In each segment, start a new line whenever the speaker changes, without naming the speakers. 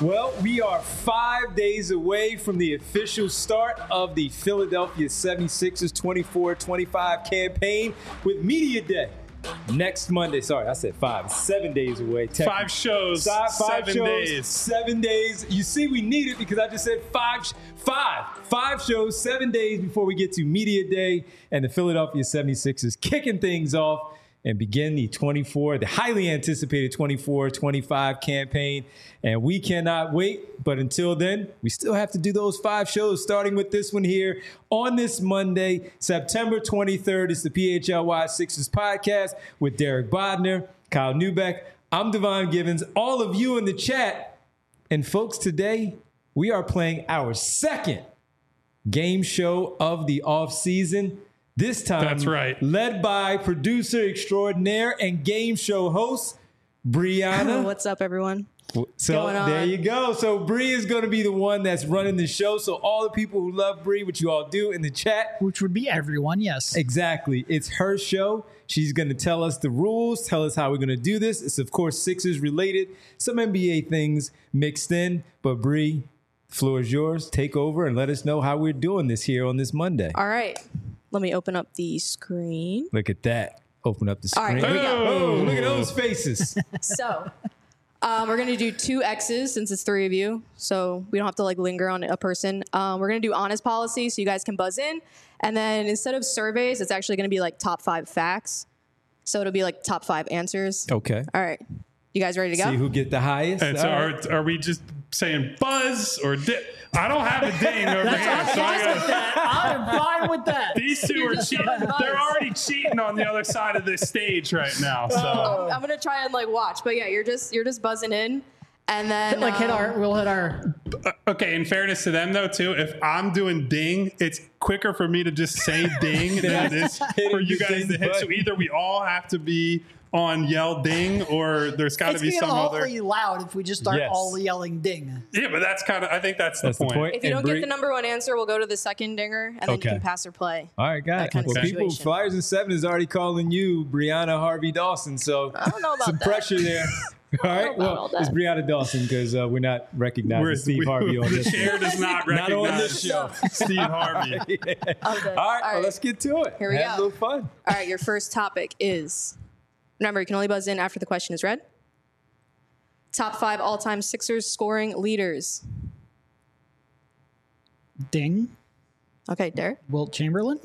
Well, we are 5 days away from the official start of the Philadelphia 76ers 24-25 campaign with Media Day next Monday. Sorry, I said 5. 7 days away.
5 shows,
Five
7
shows,
days.
7 days. You see, we need it because I just said five shows, 7 days before we get to Media Day and the Philadelphia 76ers kicking things off and begin the highly anticipated 24-25 campaign. And we cannot wait. But until then, we still have to do those 5 shows, starting with this one here on this Monday, September 23rd. It's the PHLY Sixers podcast with Derek Bodner, Kyle Neubeck. I'm Devon Givens. All of you in the chat. And folks, today we are playing our second game show of the offseason. This time,
that's right,
led by producer extraordinaire and game show host, Brianna.
What's up, everyone?
So there you go. So Bree is going to be the one that's running the show. So all the people who love Bree, which you all do in the chat.
Which would be everyone, yes.
Exactly. It's her show. She's going to tell us the rules, tell us how we're going to do this. It's, of course, Sixers related, some NBA things mixed in. But Bree, the floor is yours. Take over and let us know how we're doing this here on this Monday.
All right. Let me open up the screen.
Look at that. Open up the screen.
All right, here we go.
Oh, look at those faces.
So we're going to do 2 X's since it's 3 of you. So we don't have to linger on a person. We're going to do honest policy so you guys can buzz in. And then instead of surveys, it's actually going to be top 5 facts. So it'll be top 5 answers.
Okay.
All right. You guys ready to go?
See who get the highest?
And so are we just saying buzz or I don't have a ding over here. So
I'm fine with that.
These two are cheating. They're already cheating on the other side of this stage right now. So
I'm gonna try and watch, but yeah, you're just buzzing in, and then
we'll hit our.
Okay, in fairness to them though, too, if I'm doing ding, it's quicker for me to just say ding than it is for you guys to hit. So either we all have to be on yell ding, or there's got to be some other.
It's awfully loud if we just start all yelling ding.
Yeah, but that's I think that's the point.
If you don't get the number 1 answer, we'll go to the second dinger, and then you can pass or play.
All right, guys. People, Flyers and 7 is already calling you Brianna Harvey Dawson, so
I don't know about
some pressure there. All right, well, it's Brianna Dawson because we're not recognizing Steve Harvey on this
show. The chair does not recognize
not on this show.
Steve Harvey.
All right, well, let's get to it.
Here we go.
Have a little fun.
All right, your first topic is, remember, you can only buzz in after the question is read. Top 5 all-time Sixers scoring leaders.
Ding.
Okay, Derek.
Wilt Chamberlain.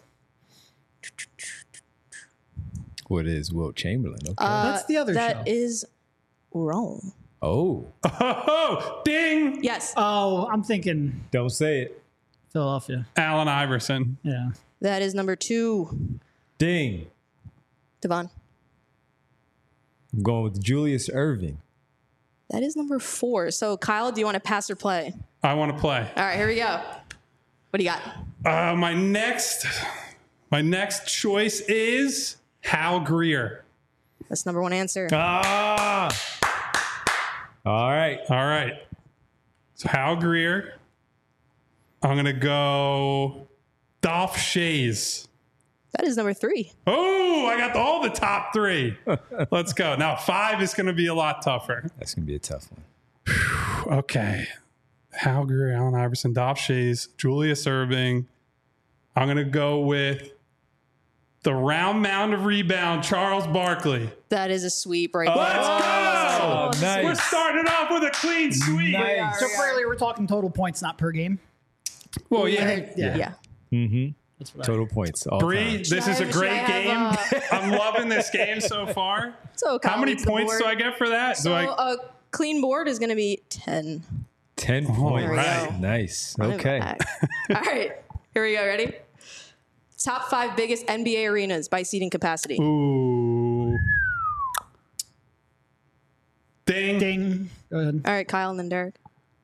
What is Wilt Chamberlain? Okay.
That's the other show.
That is wrong.
Oh,
ding.
Yes.
Oh, I'm thinking.
Don't say it.
Philadelphia.
Allen Iverson.
Yeah.
That is number 2.
Ding.
Devon.
I'm going with Julius Erving.
That is number 4. So, Kyle, do you want to pass or play?
I want to play.
All right, here we go. What do you got?
My next choice is Hal Greer.
That's number 1 answer.
Ah. All right.
So Hal Greer. I'm going to go Dolph Schayes.
That is number 3.
Oh, I got all the top 3. Let's go. Now 5 is going to be a lot tougher.
That's going to be a tough one.
Okay. Hal Greer, Allen Iverson, Dolph Schayes, Julius Erving. I'm going to go with the round mound of rebound, Charles Barkley.
That is a sweep right
Let's
there.
go.
Nice.
We're starting off with a clean sweep.
Nice.
So clearly we're talking total points, not per game.
Well, yeah.
Yeah.
Mm-hmm. Total points.
Bree, this is a great game. I'm loving this game so far.
So
how many points do I get for that?
So a clean board is going to be 10.
10 points.
Right.
Nice. Okay.
All right. Here we go. Ready? Top 5 biggest NBA arenas by seating capacity.
Ooh. Ding.
Ding. Go ahead.
All right, Kyle and then Derek.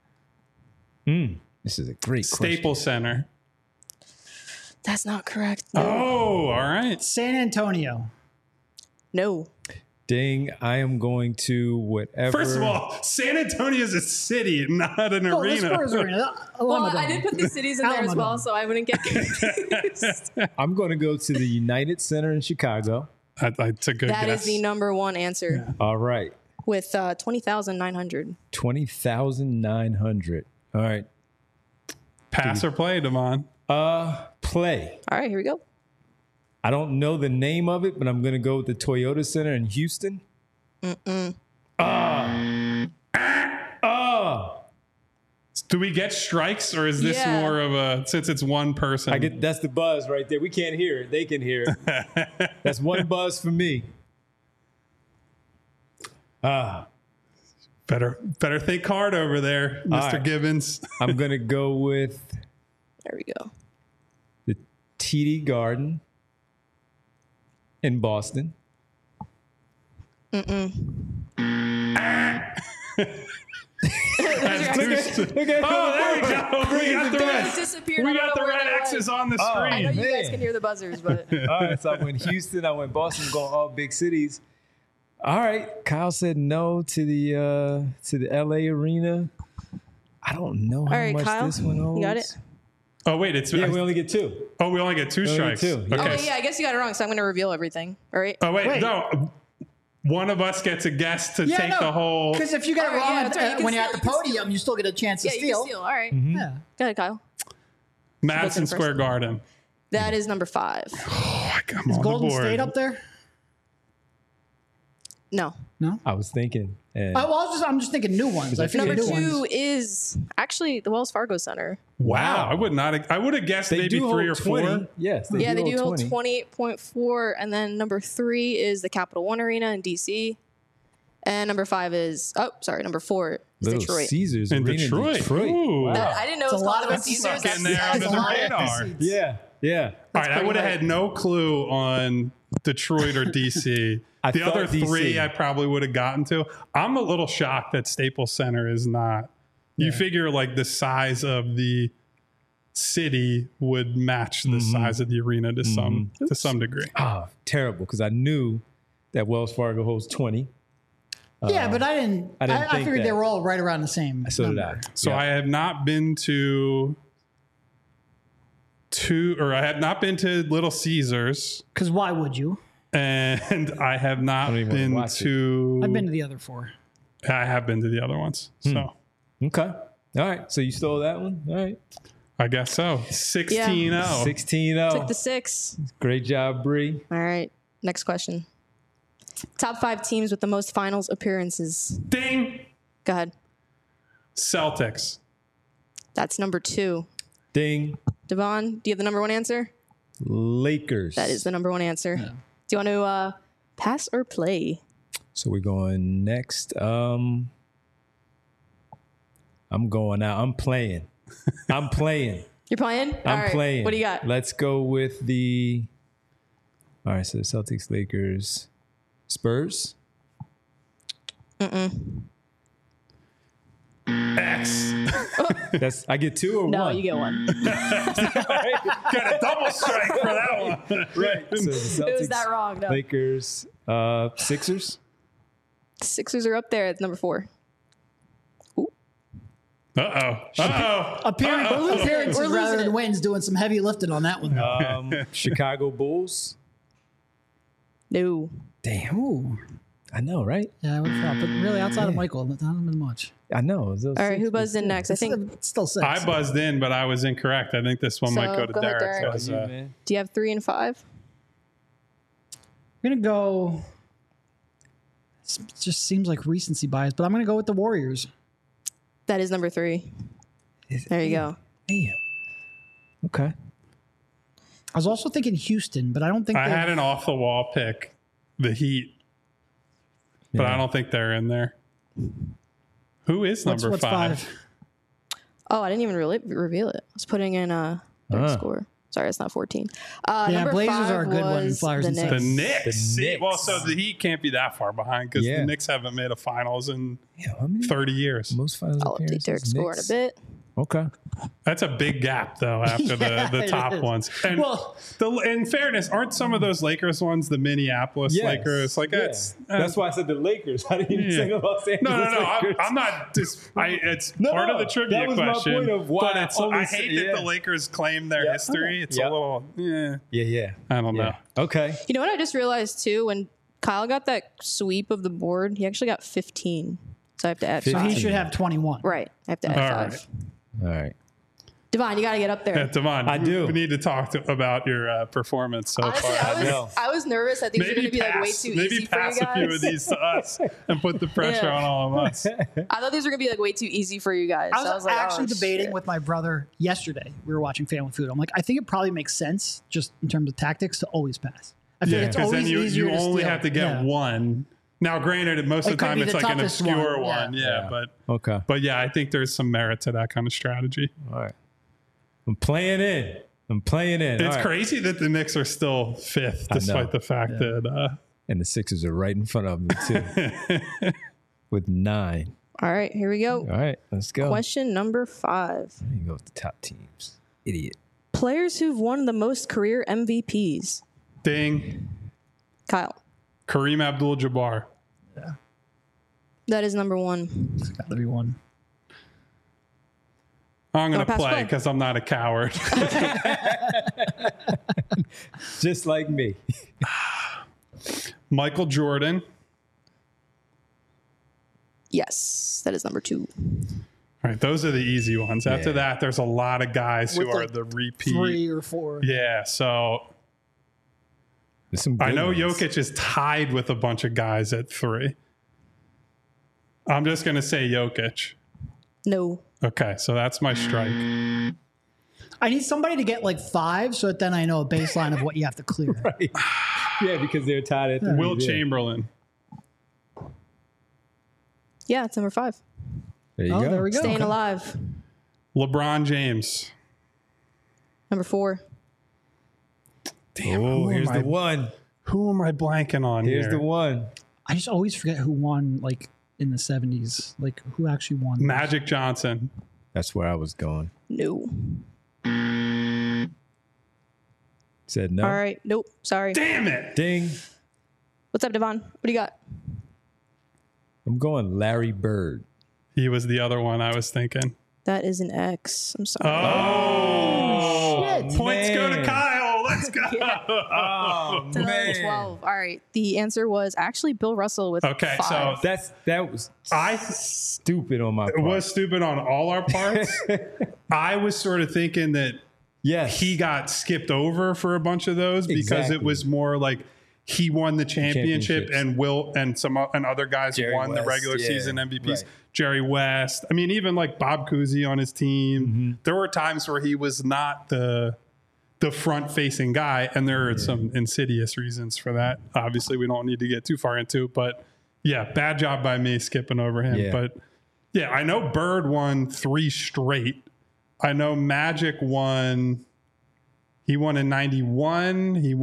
This is a great
Staples Center.
That's not correct.
No. Oh, all right.
San Antonio.
No.
Ding. I am going to whatever.
First of all, San Antonio is a city, not an arena.
The Spurs arena.
Well, I did put the cities in there as well, so I wouldn't get confused.
I'm going to go to the United Center in Chicago.
That's a good guess.
That is the number 1 answer.
Yeah. All right.
with 20,900.
20,900. All right.
Pass or play, Devon?
Play.
All right, here we go.
I don't know the name of it, but I'm going to go with the Toyota Center in Houston.
Do we get strikes, or is this
Yeah.
more of a, since it's one person?
That's the buzz right there. We can't hear it. They can hear it. That's one buzz for me.
Better think hard over there, Mr.
right.
Gibbons.
I'm going to go with
There we go.
the TD Garden in Boston.
Okay. Oh, there we go. We got the red.
Disappeared.
We
I don't
got
know
the
where
red
they went.
X's on the
I know
screen.
you guys
Man.
can hear the buzzers, but
All right, so I went Houston, I went Boston, going all big cities. All right, Kyle said no to the LA Arena. I don't know how
all right,
much
Kyle,
this one holds.
you got it.
Oh, wait. It's
Yeah, we only get two.
we only get two
only get
strikes.
two, yeah.
Oh,
Okay.
wait, yeah, I guess you got it wrong. So I'm going to reveal everything. All right.
Oh, wait.
Wait.
No. One of us gets a guess to take the whole.
Because if you get it
All right, yeah,
wrong
that's right, you can
when you're at
steal,
the
you can
podium, you still get a chance to
Yeah, you
steal.
can steal. All right.
Yeah.
Go ahead, Kyle.
Madison
Looking
Square
first.
Garden.
That is number 5.
I'm on
Golden
the board.
State up there?
No.
No.
I was thinking. And
I'm just thinking new ones. I figured
Number
new
2
ones.
is actually the Wells Fargo Center.
Wow. I would have guessed
they
maybe
do
3
hold
or 4.
20. Yes,
They do hold
20.
28.4. And then number 3 is the Capital One Arena in D.C. And number 5 is, number 4 is
Little
Detroit.
Caesars
In
Arena
Detroit.
Detroit.
Ooh.
Wow.
I didn't know it was
a
called
lot of
Little
empty
Caesars.
Getting there
That's
under
a
the
lot of
radar.
empty seats.
Yeah, yeah.
All right, I
pretty
would have
late.
had no clue on Detroit or DC.
I
The
thought
other 3
DC.
I probably would have gotten to. I'm a little shocked that Staples Center is not. You figure like the size of the city would match the size of the arena to some degree.
Oh, terrible, because I knew that Wells Fargo holds 20.
Yeah, but I didn't
I didn't think
figured
that.
they were all right around the same.
So did I.
number.
So
Yeah.
I have not been to Little Caesars,
Because why would you?
and I have not
don't even wanna
been
watch it.
to.
I've been to the other 4.
I have been to the other ones.
Hmm.
So
Okay. All right. So you stole that one. All right.
I guess so. 16-0.
16-0.
Took the 6.
Great job, Bree.
All right. Next question. Top 5 teams with the most finals appearances.
Ding.
Go ahead.
Celtics.
That's number 2.
Ding.
Devon, do you have the number 1 answer?
Lakers.
That is the number 1 answer. Do you want to pass or play?
So we're going next. I'm going out. I'm playing. I'm playing.
You're playing?
I'm
All right.
playing.
What do you got?
Let's go with the. All right. So Celtics, Lakers, Spurs.
X.
That's I get 2 or
No,
1.
you get 1.
Got a double strike for that one.
Right. So the Celtics,
It was that wrong. No.
Lakers, Sixers.
Sixers are up there. It's number 4.
Appearances
We're losing
rather than
it.
wins, doing some heavy lifting on that one.
Chicago Bulls.
No.
Damn.
Ooh.
I know, right?
Yeah, I would have thought. But really, outside of Michael, not been much.
I know.
All right. Who buzzed in next? I think.
It's still 6.
I buzzed in, but I was incorrect. I think this one
So,
might go to
go ahead,
Derek.
Derek.
'cause,
man.
Do you have 3 and 5?
I'm going to go. It just seems like recency bias, but I'm going to go with the Warriors.
That is number 3. There you go.
Damn. Okay.
I was also thinking Houston, but I don't think
I
they
had an off the wall pick, the Heat, but
Yeah.
I don't think they're in there. Who is number
what's
5?
Oh, I didn't even really reveal it. I was putting in their score. Sorry, it's not 14. Number
Blazers
5
are a good one,
was
Flyers
the
and
Knicks.
The
Suns.
Knicks.
The
See,
Knicks.
well, so the Heat can't be that far behind because
Yeah.
the Knicks haven't made a finals in
Yeah. How many
30 years.
most finals
I'll update
appearances?
Derek's score in a
Knicks?
bit.
Okay.
That's a big gap, though, after
Yeah,
the
it
top
is.
ones. And
Well-
in fairness, aren't some of those Lakers ones the Minneapolis
Yes.
Lakers? Like,
Yeah.
that's
why I said the Lakers. I didn't even
Yeah.
say the Los Angeles
No.
Lakers.
I'm not just. It's
No,
part of the
that
trivia
was my
question.
point of why
but it's,
I only
I
said-
hate that
yeah.
the Lakers claim their
Yeah.
history. It's
Yeah.
a little. Yeah.
Yeah.
I don't know.
Okay.
You know what I just realized too when Kyle got that sweep of the board. He actually got 15. So I have to add
So
5.
he should have 21.
Right. I have to add
All
5.
right.
All right.
Devon, you got to get up there.
Devon,
I do.
We need to talk about your performance so
Honestly,
far.
I was nervous that these were going to be like way too easy for you
pass a few of
guys.
these to us and put the pressure
Yeah.
on all of us.
I thought these were going to be like way too easy for you guys.
I
So
was
like,
actually
oh,
debating
shit.
with my brother yesterday. We were watching Family Food. I'm like, I think it probably makes sense, just in terms of tactics, to always pass. I feel
Yeah,
like it's
because
always
then you
easier to
only
steal.
have to get
Yeah.
one. Now, granted, most
It
of the
could
time
be
it's
the
like an
toughest
obscure
one,
one.
yeah.
Yeah,
Okay.
but yeah, I think there's some merit to that kind of strategy.
All right. I'm playing in.
It's
All right.
crazy that the Knicks are still fifth,
I know.
despite the fact that
And the Sixers are right in front of me, too, with 9.
All right, here we go.
All right, let's go.
Question number 5.
Let me go with the top teams. Idiot.
Players who've won the most career MVPs.
ding,
Kyle,
Kareem Abdul-Jabbar.
that is number 1.
It's got to be one.
I'm going to
pass
play
play?
because I'm not a coward.
Just like me.
Michael Jordan.
Yes, that is number 2.
All right, those are the easy ones. After
Yeah.
that, there's a lot of guys who
With
are
like
the repeat.
3 or 4.
Yeah, so
There's some
I
good
know
ones.
Jokic is tied with a bunch of guys at 3. I'm just going to say Jokic.
No.
Okay, so that's my strike.
I need somebody to get like 5 so that then I know a baseline of what you have to clear.
Right. Yeah, because they're tied at 3.
Will
yeah.
Chamberlain.
Yeah, it's number 5.
There you
Oh,
go.
there we go.
Staying
Okay.
alive.
LeBron James.
Number 4.
Damn,
Oh,
who
here's
am
the
I-
one.
Who am I blanking on
Here's
here?
the one.
I just always forget who won like in the 70s. Like who actually won.
Magic Johnson.
That's where I was going.
No.
Said no.
All right. Nope. Sorry.
Damn it.
Ding.
What's up, Devon? What do you got?
I'm going Larry Bird.
He was the other one I was thinking.
That is an X. I'm sorry.
Oh,
Shit.
points go to
Man.
Kyle. Let's go.
Oh,
So that was 12. All right. The answer was actually Bill Russell with
Okay,
5.
so
that was
I
stupid on my part.
it was stupid on all our parts. I was sort of thinking that
yes.
he got skipped over for a bunch of those because
Exactly.
it was more like he won the championship
Championships.
and Will and and other guys
Jerry
won the
West,
regular
yeah,
season MVPs.
right.
Jerry West. I mean, even like Bob Cousy on his team.
Mm-hmm.
There were times where he was not the front facing guy, and there are some insidious reasons for that. Obviously, we don't need to get too far into, but yeah, bad job by me skipping over him.
Yeah.
But yeah, I know Bird won 3 straight. I know Magic won. He won in 91. He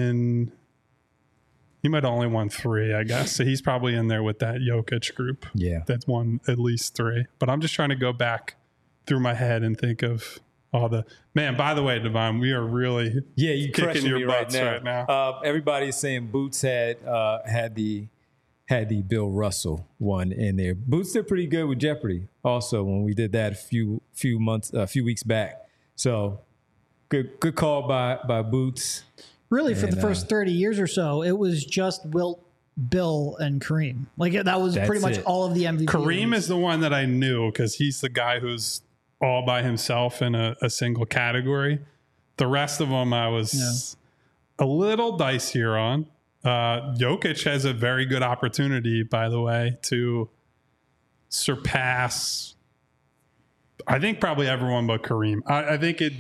might have only won 3, I guess. So he's probably in there with that Jokic group
Yeah.
that won at least 3. But I'm just trying to go back through my head and think of all the man. By the way, Devon, we are really
Yeah, you
kicking
crushing
your
me
butts
right now. Everybody's saying Boots had the Bill Russell one in there. Boots did pretty good with Jeopardy. Also, when we did that a few weeks back. So good call by Boots.
Really, for the
And,
first 30 years or so, it was just Wilt, Bill, and Kareem. Like that was
That's
pretty much
it.
all of the MVP.
Kareem is the one that I knew because he's the guy who's all by himself in a single category. The rest of them I was a little dicier on. Jokic has a very good opportunity, by the way, to surpass, I think, probably everyone but Kareem. I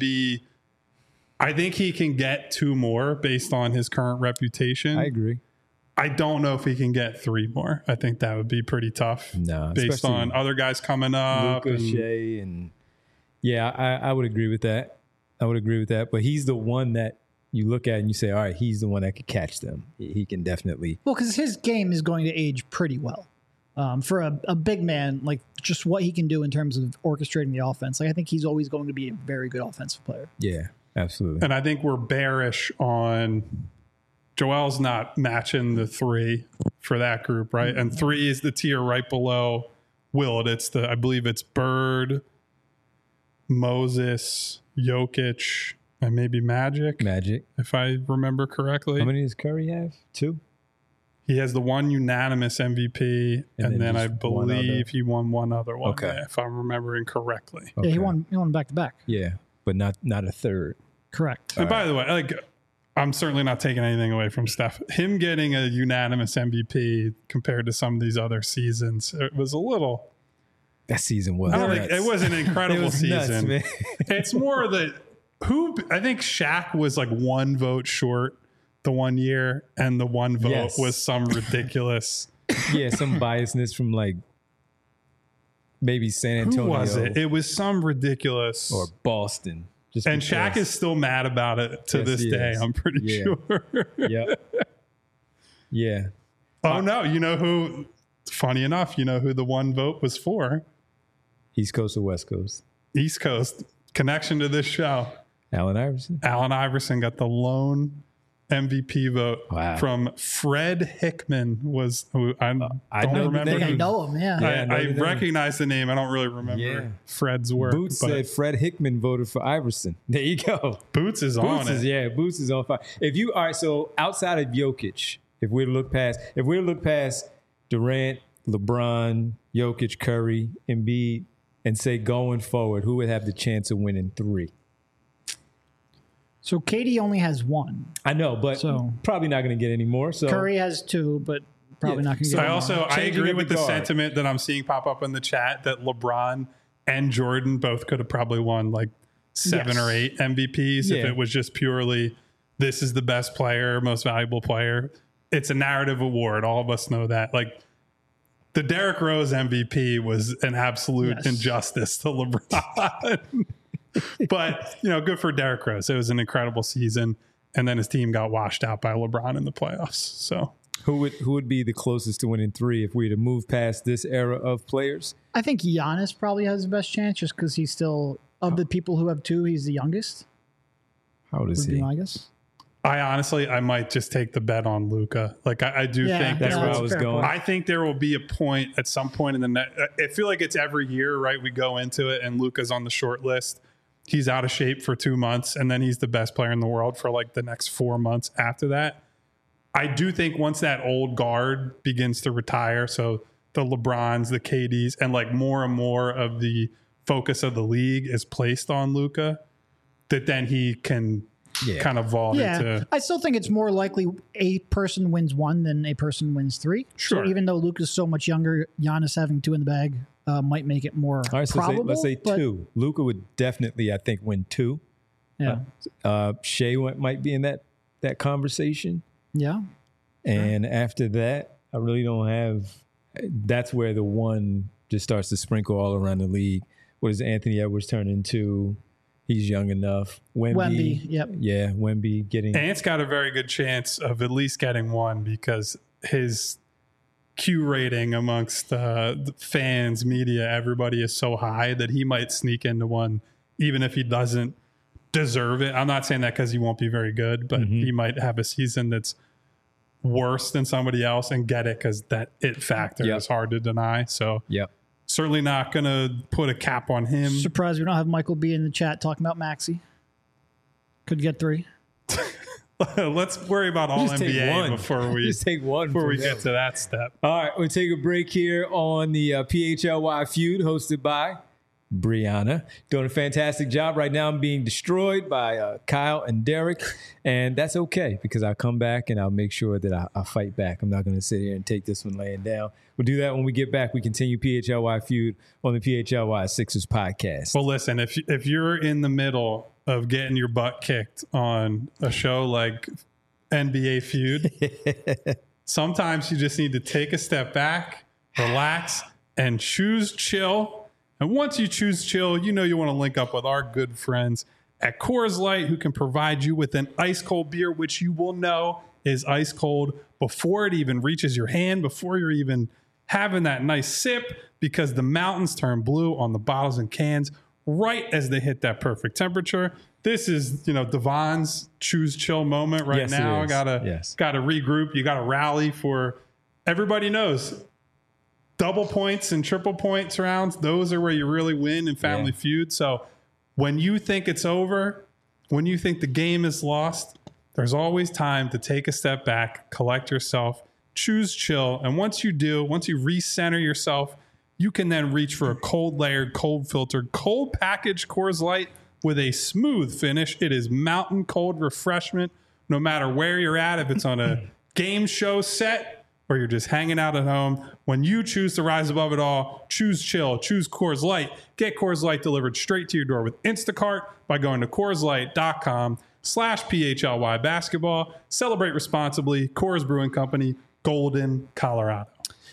think he can get 2 more based on his current reputation.
I agree.
I don't know if he can get 3 more. I think that would be pretty tough.
No,
based
especially
on other guys coming up.
Luka,
and-
Shea, and yeah, I would agree with that. But he's the one that you look at and you say, all right, he's the one that could catch them. He can definitely.
Well, because his game is going to age pretty well. For a big man, like just what he can do in terms of orchestrating the offense. Like I think he's always going to be a very good offensive player.
Yeah, absolutely.
And I think we're bearish on Joel's not matching the 3 for that group, right? And 3 is the tier right below Wilt. I believe it's Bird, Moses, Jokic, and maybe Magic,
Magic.
if I remember correctly.
How many does Curry have? 2?
He has the one unanimous MVP, and then I
just one other.
believe he won one other one,
Okay.
if I'm remembering correctly.
Yeah, he won back to back.
Yeah, but not a third.
Correct.
And by the way, like, I'm certainly not taking anything away from Steph. Him getting a unanimous MVP compared to some of these other seasons, it was a little.
That season was.
I don't think it was an incredible
It was nuts,
season.
man.
It's more that I think Shaq was like one vote short the one year, and the one vote
Yes.
was some ridiculous.
Yeah, some biasness from like maybe San
Who
Antonio
was it? It was some ridiculous.
or Boston. Just
And
because.
Shaq is still mad about it to
Yes,
this
he
day,
is.
I'm pretty
Yeah.
sure.
Yep. Yeah.
Oh, no. You know who, funny enough, you know who the one vote was for?
East Coast or West Coast?
East Coast. Connection to this show.
Allen Iverson.
Allen Iverson got the lone MVP vote
Wow.
from Fred Hickman. Was who I
I
don't
know the
remember.
I think I
name.
know him. Yeah.
Yeah. I know
I
the name.
recognize the name. I don't really remember
Yeah.
Fred's work.
Boots
but
said Fred Hickman voted for Iverson. There you go.
Boots is on
Boots
it.
is, yeah, Boots is on fire. All right, so outside of Jokic, if we look past Durant, LeBron, Jokic, Curry, Embiid, and say going forward, who would have the chance of winning 3?
So KD only has one.
I know, but
So-
probably not going to get any more. So
Curry has 2, but probably
Yeah.
not going to
So
get
I
more.
also I
Changing
agree
of
with
the
the
guard.
sentiment that I'm seeing pop up in the chat that LeBron and Jordan both could have probably won like 7
Yes.
or 8 MVPs if
Yeah.
it was just purely this is the best player, most valuable player. It's a narrative award. All of us know that. Like the Derrick Rose MVP was an absolute
Yes.
injustice to LeBron. But, you know, good for Derrick Rose. It was an incredible season. And then his team got washed out by LeBron in the playoffs. So
who would be the closest to winning 3 if we were to move past this era of players?
I think Giannis probably has the best chance just because he's still, of the people who have 2, he's the youngest.
How old is
Would be
he?
my guess.
I might just take the bet on Luka. Like I do
Yeah,
think
That's
there
where
will-
I was
fair
going.
point.
I think there will be a point at some point in the net. I feel like it's every year, right? We go into it and Luka's on the short list. He's out of shape for 2 months and then he's the best player in the world for like the next 4 months after that. I do think once that old guard begins to retire, so the LeBrons, the KDs, and like more and more of the focus of the league is placed on Luka, that then he can
Yeah.
kind of vault
Yeah,
into.
I still think it's more likely a person wins 1 than a person wins 3.
Sure.
So even though Luka's so much younger, Giannis having 2 in the bag might make it more
All right, so
probable.
let's say
but-
2. Luka would definitely, I think, win 2.
Yeah.
Shea might be in that conversation.
Yeah.
And after that, I really don't have. That's where the 1 just starts to sprinkle all around the league. What does Anthony Edwards turn into? He's young enough.
Wemby, yep.
Yeah, Wemby getting.
Ant's got a very good chance of at least getting 1 because his Q rating amongst the fans, media, everybody is so high that he might sneak into 1, even if he doesn't deserve it. I'm not saying that because he won't be very good, but he might have a season that's worse than somebody else and get it because that it factor
Yep.
is hard to deny. So
Yep.
certainly not going to put a cap on him.
Surprised we don't have Michael B in the chat talking about Maxey. Could get 3.
Let's worry about all
Just take
NBA
1.
before we
Just take 1
before we
from
get
them.
to that step.
All right, we'll take a break here on the PHLY feud hosted by Brianna. Doing a fantastic job. Right now I'm being destroyed by Kyle and Derek, and that's okay because I'll come back and I'll make sure that I fight back. I'm not going to sit here and take this one laying down. We'll do that when we get back. We continue PHLY feud on the PHLY Sixers podcast.
Well, listen, if you're in the middle of getting your butt kicked on a show like NBA Feud, sometimes you just need to take a step back, relax, and choose chill. And once you choose chill, you know you want to link up with our good friends at Coors Light, who can provide you with an ice cold beer, which you will know is ice cold before it even reaches your hand, before you're even having that nice sip, because the mountains turn blue on the bottles and cans right as they hit that perfect temperature. This is, Devon's choose chill moment right
Yes, it
now.
is.
Gotta
Yes.
regroup. You gotta rally for. Everybody knows double points and triple points rounds. Those are where you really win in Family
Yeah.
Feud. So when you think it's over, when you think the game is lost, there's always time to take a step back, collect yourself, choose chill. And once you recenter yourself, you can then reach for a cold layered, cold filtered, cold packaged Coors Light with a smooth finish. It is mountain cold refreshment, no matter where you're at, if it's on a game show set or you're just hanging out at home. When you choose to rise above it all, choose chill, choose Coors Light. Get Coors Light delivered straight to your door with Instacart by going to CoorsLight.com/PHLY basketball. Celebrate responsibly. Coors Brewing Company, Golden, Colorado.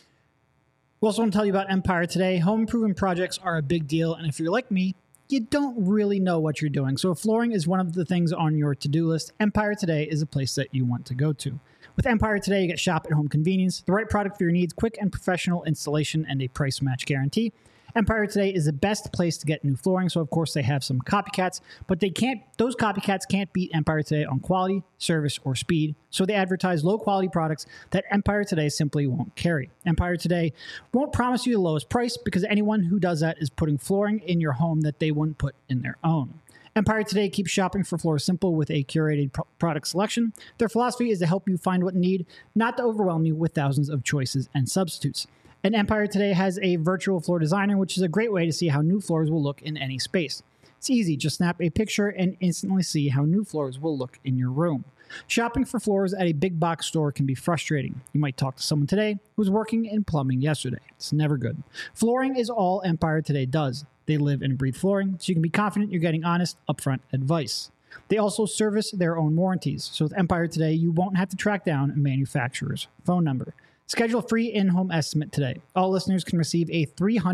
We also want to tell you about Empire Today. Home improvement projects are a big deal, and if you're like me, you don't really know what you're doing. So if flooring is one of the things on your to-do list, Empire Today is a place that you want to go to. With Empire Today, you get shop at home convenience, the right product for your needs, quick and professional installation, and a price match guarantee. Empire Today is the best place to get new flooring, so of course they have some copycats, but those copycats can't beat Empire Today on quality, service, or speed, so they advertise low-quality products that Empire Today simply won't carry. Empire Today won't promise you the lowest price because anyone who does that is putting flooring in your home that they wouldn't put in their own. Empire Today keeps shopping for floors simple with a curated product selection. Their philosophy is to help you find what you need, not to overwhelm you with thousands of choices and substitutes. And Empire Today has a virtual floor designer, which is a great way to see how new floors will look in any space. It's easy. Just snap a picture and instantly see how new floors will look in your room. Shopping for floors at a big box store can be frustrating. You might talk to someone today who was working in plumbing yesterday. It's never good. Flooring is all Empire Today does. They live and breathe flooring, so you can be confident you're getting honest, upfront advice. They also service their own warranties. So with Empire Today, you won't have to track down a manufacturer's phone number. Schedule a free in-home estimate today. All listeners can receive a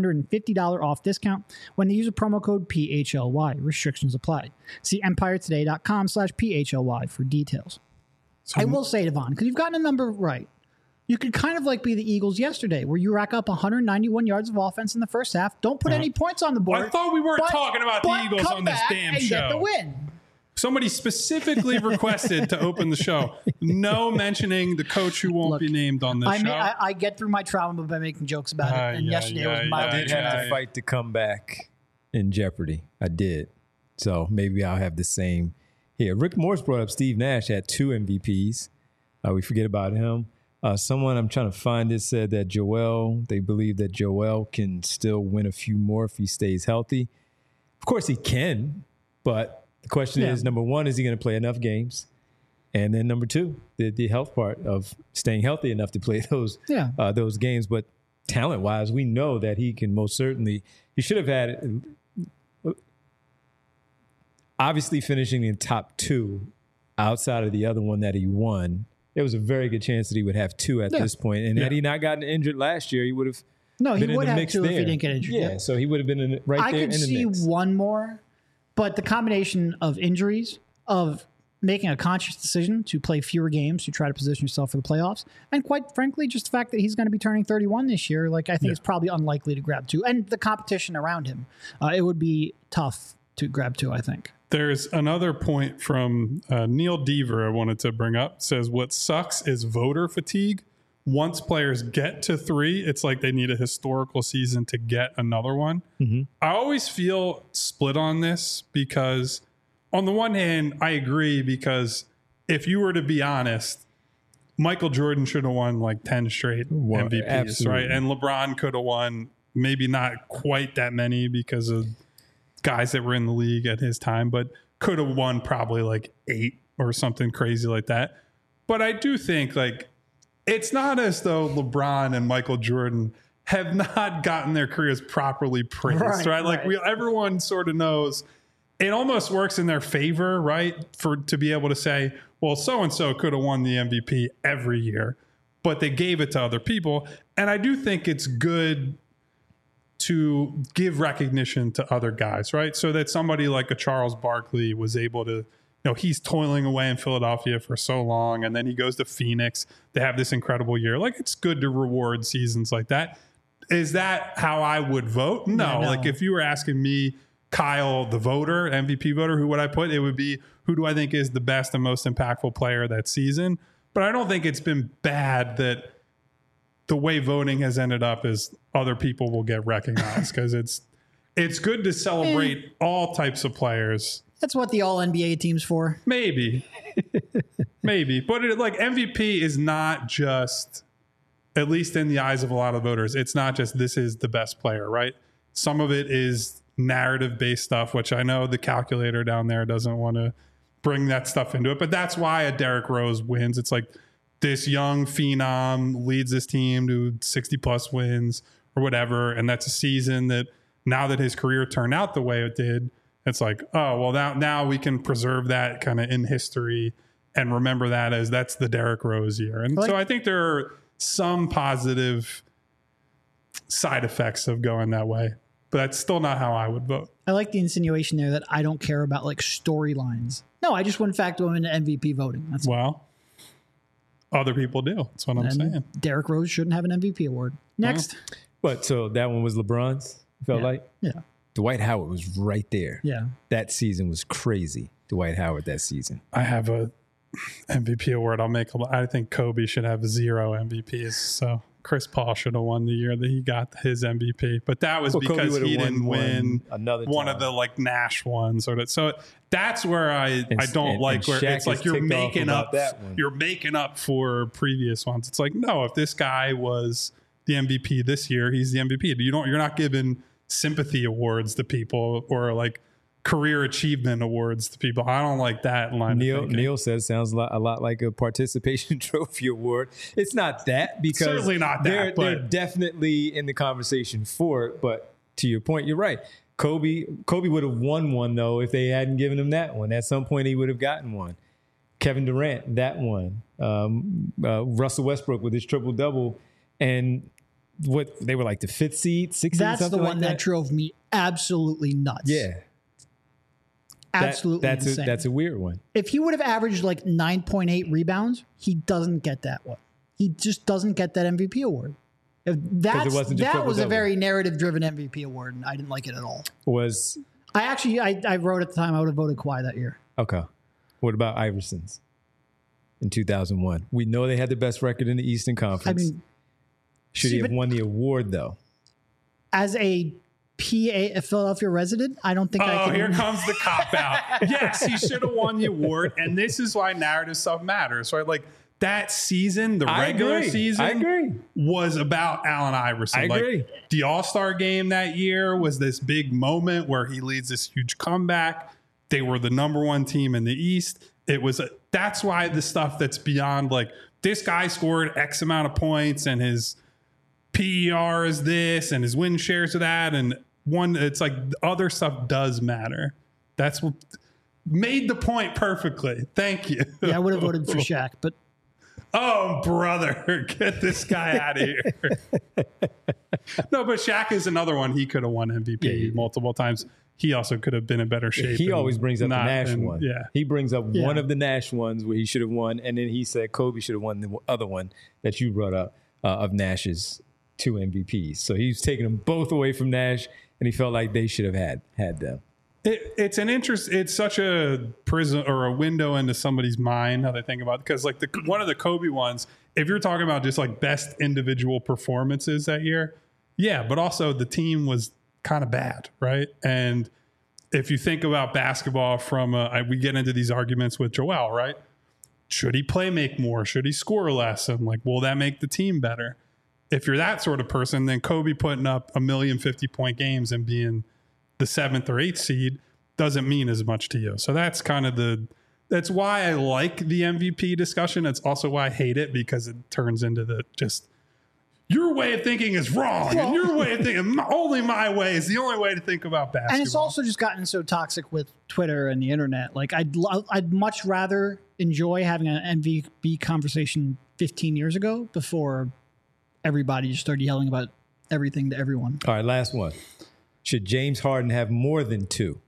$350 off discount when they use a promo code PHLY. Restrictions apply. See empiretoday.com/PHLY for details. I will say, Devon, because you've gotten a number right, you could kind of like be the Eagles yesterday, where you rack up 191 yards of offense in the first half, don't put any points on the board.
I thought we weren't talking about the Eagles on this damn show.
Get the win.
Somebody specifically requested to open the show. No mentioning the coach who won't be named on this show.
I get through my trauma by making jokes about it. And yesterday was my
I did have to fight to come back in Jeopardy. I did. So maybe I'll have the same here. Rick Morris brought up Steve Nash had 2 MVPs. We forget about him. Someone, I'm trying to find it, said that they believe that Joel can still win a few more if he stays healthy. Of course he can, but the question is, number one, is he going to play enough games? And then number two, the health part of staying healthy enough to play those games. But talent-wise, we know that he can most certainly – he should have had obviously finishing in top 2 outside of the other one that he won. There was a very good chance that he would have 2 at this point. And had he not gotten injured last year, he would have been in the mix there.
If he didn't get injured.
Yeah, so he would have been there in the mix.
I could see one more. But the combination of injuries, of making a conscious decision to play fewer games to try to position yourself for the playoffs, and quite frankly, just the fact that he's going to be turning 31 this year, I think it's probably unlikely to grab 2. And the competition around him, it would be tough to grab 2, I think.
There's another point from Neil Deaver I wanted to bring up. It says, what sucks is voter fatigue. Once players get to 3, it's like they need a historical season to get another one. Mm-hmm. I always feel split on this because on the one hand, I agree, because if you were to be honest, Michael Jordan should have won 10 straight MVPs,
absolutely.
right? And LeBron could have won maybe not quite that many because of guys that were in the league at his time, but could have won probably 8 or something crazy like that. But I do think it's not as though LeBron and Michael Jordan have not gotten their careers properly praised, right? Everyone sort of knows it almost works in their favor, right? To be able to say, well, so-and-so could have won the MVP every year, but they gave it to other people. And I do think it's good to give recognition to other guys, right? So that somebody like a Charles Barkley was able to, he's toiling away in Philadelphia for so long, and then he goes to Phoenix. They have this incredible year. It's good to reward seasons like that. Is that how I would vote? No. If you were asking me, Kyle, the voter, MVP voter, who would I put? It would be, who do I think is the best and most impactful player that season? But I don't think it's been bad that the way voting has ended up is other people will get recognized, because it's good to celebrate all types of players.
That's what the all-NBA team's for.
Maybe. But MVP is not just at least in the eyes of a lot of voters, it's not just this is the best player, right? Some of it is narrative-based stuff, which I know the calculator down there doesn't want to bring that stuff into it, but that's why a Derrick Rose wins. It's like this young phenom leads this team to 60-plus wins or whatever, and that's a season that now that his career turned out the way it did, it's like, oh, well, now we can preserve that kind of in history and remember that as that's the Derrick Rose year. And so I think there are some positive side effects of going that way, but that's still not how I would vote.
I like the insinuation there that I don't care about like storylines. No, I just wouldn't factor them into MVP voting. That's
well, other people do. That's what I'm saying.
Derrick Rose shouldn't have an MVP award. Next.
But so that one was LeBron's, you felt like?
Yeah.
Dwight Howard was right there.
Yeah.
That season was crazy. Dwight Howard that season.
I have a MVP award. I think Kobe should have 0 MVPs. So Chris Paul should have won the year that he got his MVP, but that was because he didn't win one of the like Nash ones so that's where I don't like where it's like you're making up for previous ones. It's like, no, if this guy was the MVP this year, he's the MVP. You're not giving sympathy awards to people or like career achievement awards to people. I don't like that line.
Neil says sounds a lot like a participation trophy award. It's not that, because
certainly not that.
They're definitely in the conversation for it. But to your point, you're right. Kobe would have won one though if they hadn't given him that one. At some point, he would have gotten one. Kevin Durant, that one. Russell Westbrook with his triple double, and what they were like the 5th seed, 6th seed.
That's the one
like
that drove me absolutely nuts.
Yeah.
Absolutely insane.
That's a weird one.
If he would have averaged like 9.8 rebounds, he doesn't get that one. He just doesn't get that MVP award. That was a very narrative-driven MVP award, and I didn't like it at all. I wrote at the time I would have voted Kawhi that year.
Okay. What about Iverson's in 2001? We know they had the best record in the Eastern Conference.
I mean,
should he have won the award though?
As a Philadelphia resident, I don't think I can.
Oh, here comes the cop out. Yes, he should have won the award, and this is why narrative stuff matters, right? Like that season, the regular season was about Allen Iverson.
I agree.
The All-Star game that year was this big moment where he leads this huge comeback. They were the number 1 team in the East. That's why the stuff that's beyond like this guy scored X amount of points and his PER is this and his win shares of that, and it's like other stuff does matter. That's what made the point perfectly. Thank you.
Yeah, I would have voted for Shaq, but
oh, brother, get this guy out of here. No, but Shaq is another one. He could have won MVP multiple times. He also could have been in better shape.
He always brings up the Nash one.
Yeah.
He brings up one of the Nash ones where he should have won, and then he said Kobe should have won the other one that you brought up of Nash's 2 MVPs. So he's taking them both away from Nash, and he felt like they should have had them.
It's such a prism or a window into somebody's mind, how they think about it. Because like one of the Kobe ones, if you're talking about just like best individual performances that year, yeah, but also the team was kind of bad, right? And if you think about basketball from we get into these arguments with Joel, right? Should he make more? Should he score less? And like, will that make the team better? If you're that sort of person, then Kobe putting up 1,050,000-point games and being the 7th or 8th seed doesn't mean as much to you. So that's kind of that's why I like the MVP discussion. It's also why I hate it, because it turns into your way of thinking is wrong. And your way of thinking, only my way is the only way to think about basketball.
And it's also just gotten so toxic with Twitter and the internet. Like I'd much rather enjoy having an MVP conversation 15 years ago before everybody just started yelling about everything to everyone.
All right, last one. Should James Harden have more than 2?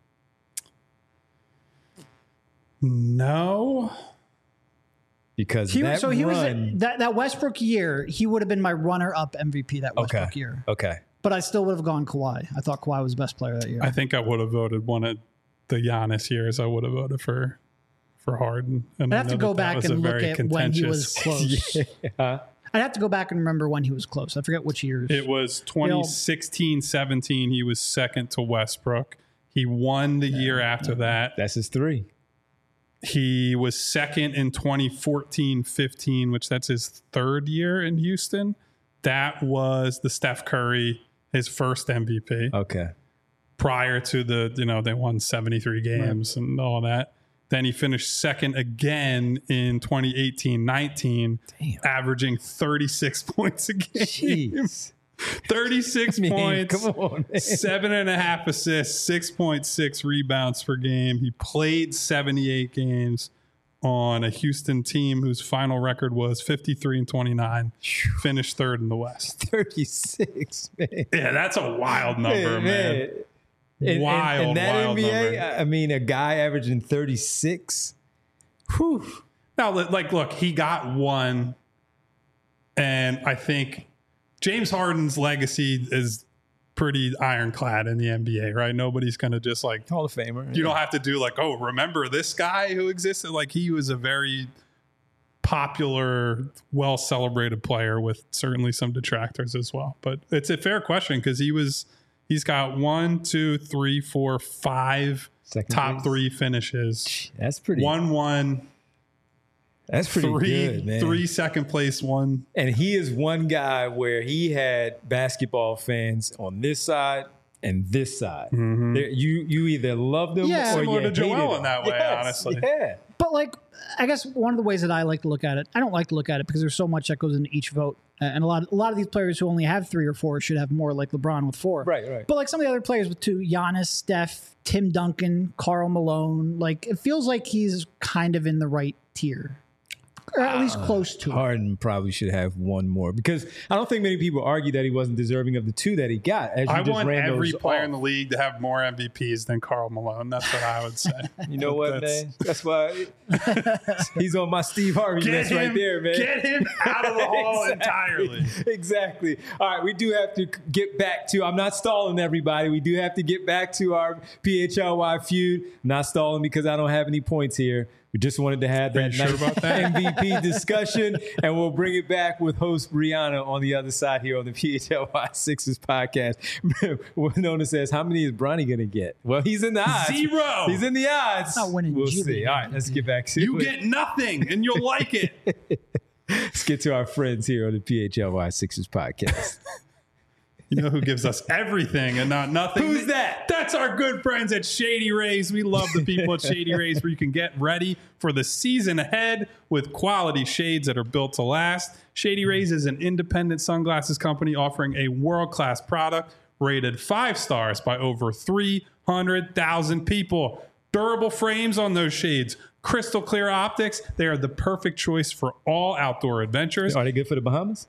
No.
Because
that Westbrook year, he would have been my runner-up MVP that Westbrook year.
Okay.
But I still would have gone Kawhi. I thought Kawhi was the best player that year.
I think I would have voted one of the Giannis years. I would have voted for Harden. And
I'd have to go back and look at when he was close. I'd have to go back and remember when he was close. I forget which years.
It was 2016-17. He was second to Westbrook. He won the year after that.
That's his 3.
He was second in 2014-15, which that's his 3rd year in Houston. That was the Steph Curry, his first MVP.
Okay.
Prior to they won 73 games and all that. Then he finished second again in 2018-19, averaging 36 points a game.
Jeez.
36 points,
come on, man.
7.5 assists, 6.6 rebounds per game. He played 78 games on a Houston team whose final record was 53-29, finished third in the West.
36, man.
Yeah, that's a wild number, man. Wild,
in that
wild
NBA,
number.
I mean, a guy averaging 36. Whew.
Now, look, he got one, and I think James Harden's legacy is pretty ironclad in the NBA, right? Nobody's going to just
Hall of Famer.
You don't have to do remember this guy who existed? He was a very popular, well-celebrated player with certainly some detractors as well. But it's a fair question because he's got 1, 2, 3, 4, 5 top 3 finishes.
That's pretty.
1-1.
That's pretty good, man.
3 second place, 1.
And he is one guy where he had basketball fans on this side and this side.
Mm-hmm.
You either loved him or
similar
you
to Joel
hated
in that way, honestly.
Yeah.
But I guess one of the ways that I like to look at it, I don't like to look at it because there's so much that goes into each vote. And a lot of these players who only have 3 or 4 should have more, like LeBron with 4.
Right.
But some of the other players with 2, Giannis, Steph, Tim Duncan, Karl Malone, it feels like he's kind of in the right tier. Or at least close to it.
Harden probably should have 1 more because I don't think many people argue that he wasn't deserving of the 2 that he got. As you
I
just
want
ran
every
those
player
off.
in the league to have more MVPs than Karl Malone. That's what I would say.
You know what, man? That's why he's on my Steve Harvey list right there, man.
Get him out of the hall entirely.
Exactly. All right, we do have to get back to, I'm not stalling everybody. We do have to get back to our PHLY feud. I'm not stalling because I don't have any points here. We just wanted to have that
sure about that?
MVP discussion, and we'll bring it back with host Brianna on the other side here on the PHLY Sixers podcast. What Nona says, how many is Bronny going to get? Well, he's in the odds.
0.
He's in the odds.
Not winning
We'll
G
see.
League.
All right, let's get back to
You
it.
get nothing, and you'll like it.
Let's get to our friends here on the PHLY Sixers podcast.
You know who gives us everything and not nothing?
Who's that?
That's our good friends at Shady Rays. We love the people at Shady Rays where you can get ready for the season ahead with quality shades that are built to last. Shady Rays is an independent sunglasses company offering a world-class product rated 5 stars by over 300,000 people. Durable frames on those shades, crystal clear optics. They are the perfect choice for all outdoor adventures.
Are they good for the Bahamas?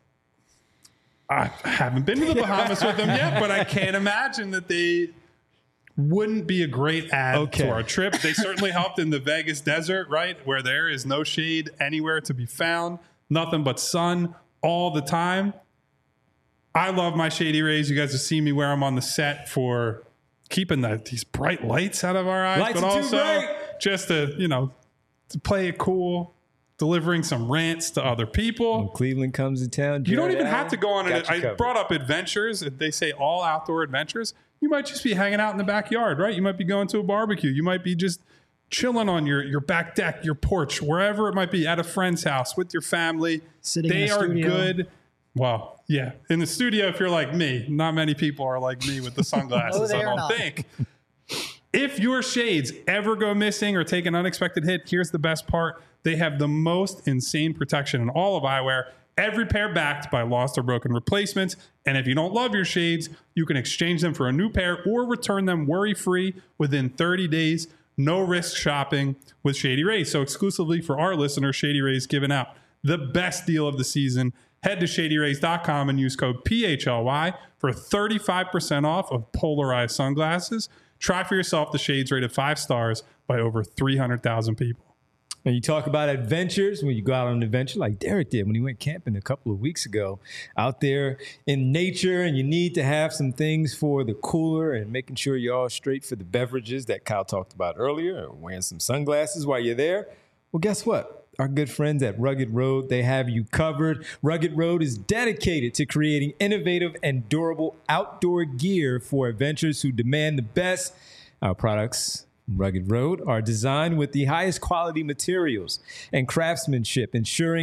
I haven't been to the Bahamas with them yet, but I can't imagine that they wouldn't be a great add to our trip. They certainly helped in the Vegas desert, right? Where there is no shade anywhere to be found, nothing but sun all the time. I love my Shady Rays. You guys have seen me wear them on the set for keeping these bright lights out of our eyes,
Lights
but
are too
also
bright.
just to play it cool, delivering some rants to other people.
When Cleveland comes to town,
You don't
Jared
even
Allen,
have to go on
got
it.
you
I
covered.
brought up adventures. They say all outdoor adventures. You might just be hanging out in the backyard, right? You might be going to a barbecue. You might be just chilling on your back deck, your porch, wherever it might be, at a friend's house with your family.
Sitting in
They
the
are
studio.
good. Well, yeah. In the studio, if you're like me, not many people are like me with the sunglasses,
No, they
I
are
don't
not.
think. If your shades ever go missing or take an unexpected hit, here's the best part. They have the most insane protection in all of eyewear. Every pair backed by lost or broken replacements. And if you don't love your shades, you can exchange them for a new pair or return them worry-free within 30 days. No risk shopping with Shady Rays. So exclusively for our listeners, Shady Rays giving out the best deal of the season. Head to ShadyRays.com and use code PHLY for 35% off of polarized sunglasses. Try for yourself the shades rated 5 stars by over 300,000 people.
When you talk about adventures, when you go out on an adventure like Derek did when he went camping a couple of weeks ago, out there in nature, and you need to have some things for the cooler and making sure you're all straight for the beverages that Kyle talked about earlier, or wearing some sunglasses while you're there. Well, guess what? Our good friends at Rugged Road, they have you covered. Rugged Road is dedicated to creating innovative and durable outdoor gear for adventurers who demand the best. Our products, Rugged Road, are designed with the highest quality materials and craftsmanship, ensuring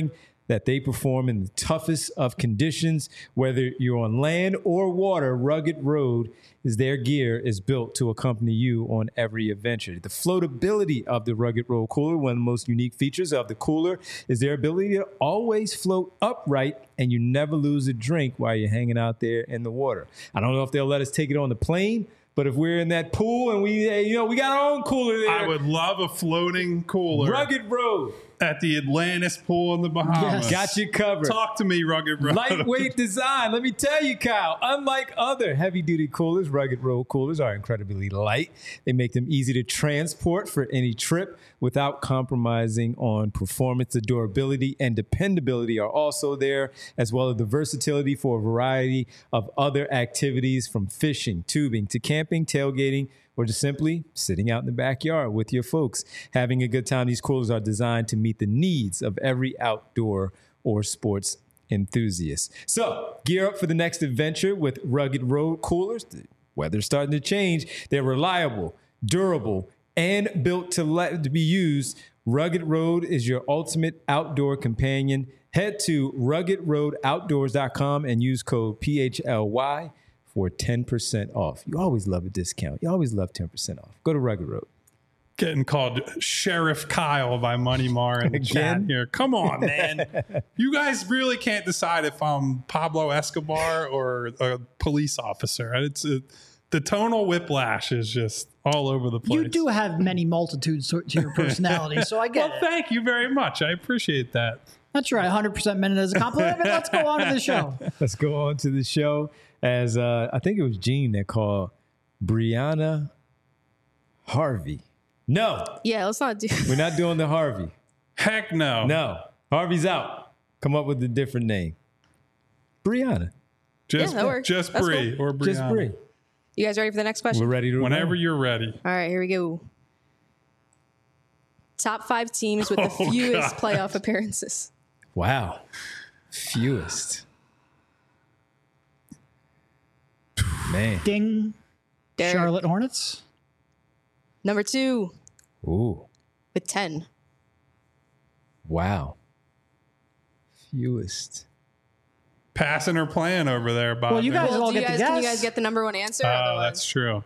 that they perform in the toughest of conditions. Whether you're on land or water, Rugged Road is their gear is built to accompany you on every adventure. The floatability of the Rugged Road cooler, one of the most unique features of the cooler, is their ability to always float upright and you never lose a drink while you're hanging out there in the water. I don't know if they'll let us take it on the plane, but if we're in that pool and we got our own cooler there.
I would love a floating cooler.
Rugged Road.
At the Atlantis pool in the Bahamas.
Yes.
Got you covered.
Talk to me, Rugged Road.
Lightweight design. Let me tell you, Kyle, unlike other heavy-duty coolers, Rugged Road coolers are incredibly light. They make them easy to transport for any trip without compromising on performance. The durability and dependability are also there, as well as the versatility for a variety of other activities, from fishing, tubing, to camping, tailgating, or just simply sitting out in the backyard with your folks. Having a good time, these coolers are designed to meet the needs of every outdoor or sports enthusiast. So gear up for the next adventure with Rugged Road coolers. The weather's starting to change. They're reliable, durable, and built to be used. Rugged Road is your ultimate outdoor companion. Head to ruggedroadoutdoors.com and use code PHLY for 10% off. You always love a discount. You always love 10% off. Go to Rugged Road.
Getting called Sheriff Kyle by Money Mar in the chat here. Come on, man. You guys really can't decide if I'm Pablo Escobar or a police officer. The tonal whiplash is just all over the place.
You do have many multitudes to your personality, so I get
Well,
it.
thank you very much. I appreciate that.
That's right. 100% meant it as a compliment. But let's go on to the show.
Let's go on to the show. As I think it was Gene that called Brianna Harvey. No,
Yeah, let's not do.
we're not doing the Harvey.
Heck no.
No, Harvey's out. Come up with a different name. Brianna.
Just,
Yeah, that works.
just
That's
Bree
cool.
or Brianna.
Just Bree.
You guys ready for the next
We're
question?
ready to
Whenever
roll.
you're ready.
All right, here we go. Top 5 teams with the
Oh,
fewest
God.
playoff appearances.
Wow. Fewest. Man.
Ding.
Derek.
Charlotte Hornets.
Number 2
Ooh.
with 10.
Wow. Fewest.
Passing or playing over there, Bob.
Well, you guys all
Well,
get to
can you
guess.
guys get the number 1 answer?
Oh,
Otherwise-
that's true.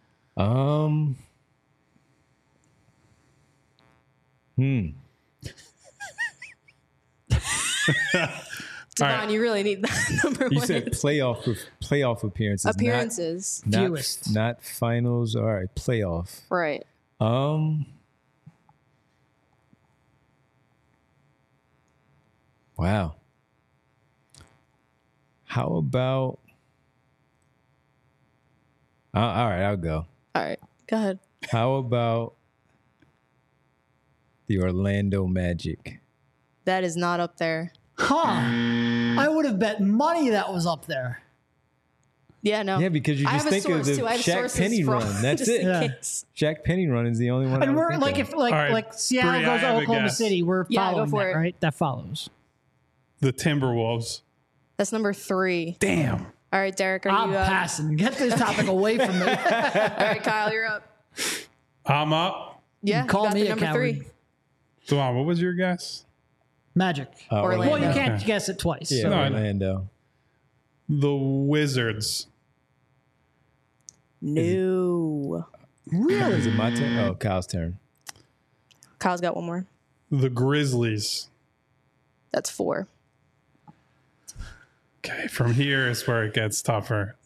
Devon, you really need that number
You
1
said
answer.
playoff appearances.
Appearances.
Not,
Fewest.
not finals. All right. Playoff.
Right.
Wow. How about? All right, I'll go.
All right. Go ahead.
How about the Orlando Magic?
That is not up there.
Huh. I would have bet money that was up there.
Yeah, no.
Yeah, because you
I
just
have a
think of
source
the
too. I have
Shaq
sources
Penny
from-
run. That's
just
it.
in
Yeah.
case.
Shaq Penny run is the only one. I
And
would
we're
think
like,
of.
if like
All right,
like Seattle
Bree, I
goes to
have a
Oklahoma
guess.
City, we're
Yeah, go
following
for
that,
it.
right? That follows.
The Timberwolves.
That's number 3.
Damn.
All right, Derek, are
I'm
you
passing. Get this topic away from me.
All right, Kyle, you're up.
I'm up.
Yeah,
call
you got
me
the
a
number
coward.
3.
Duan, what was your guess?
Magic.
Orlando.
Well, you can't
Okay.
guess it twice.
Yeah,
so-
No, I know.
Orlando.
The Wizards.
No.
Really? Is it my turn? Oh, Kyle's turn.
Kyle's got one more.
The Grizzlies.
That's 4.
Okay, from here is where it gets tougher.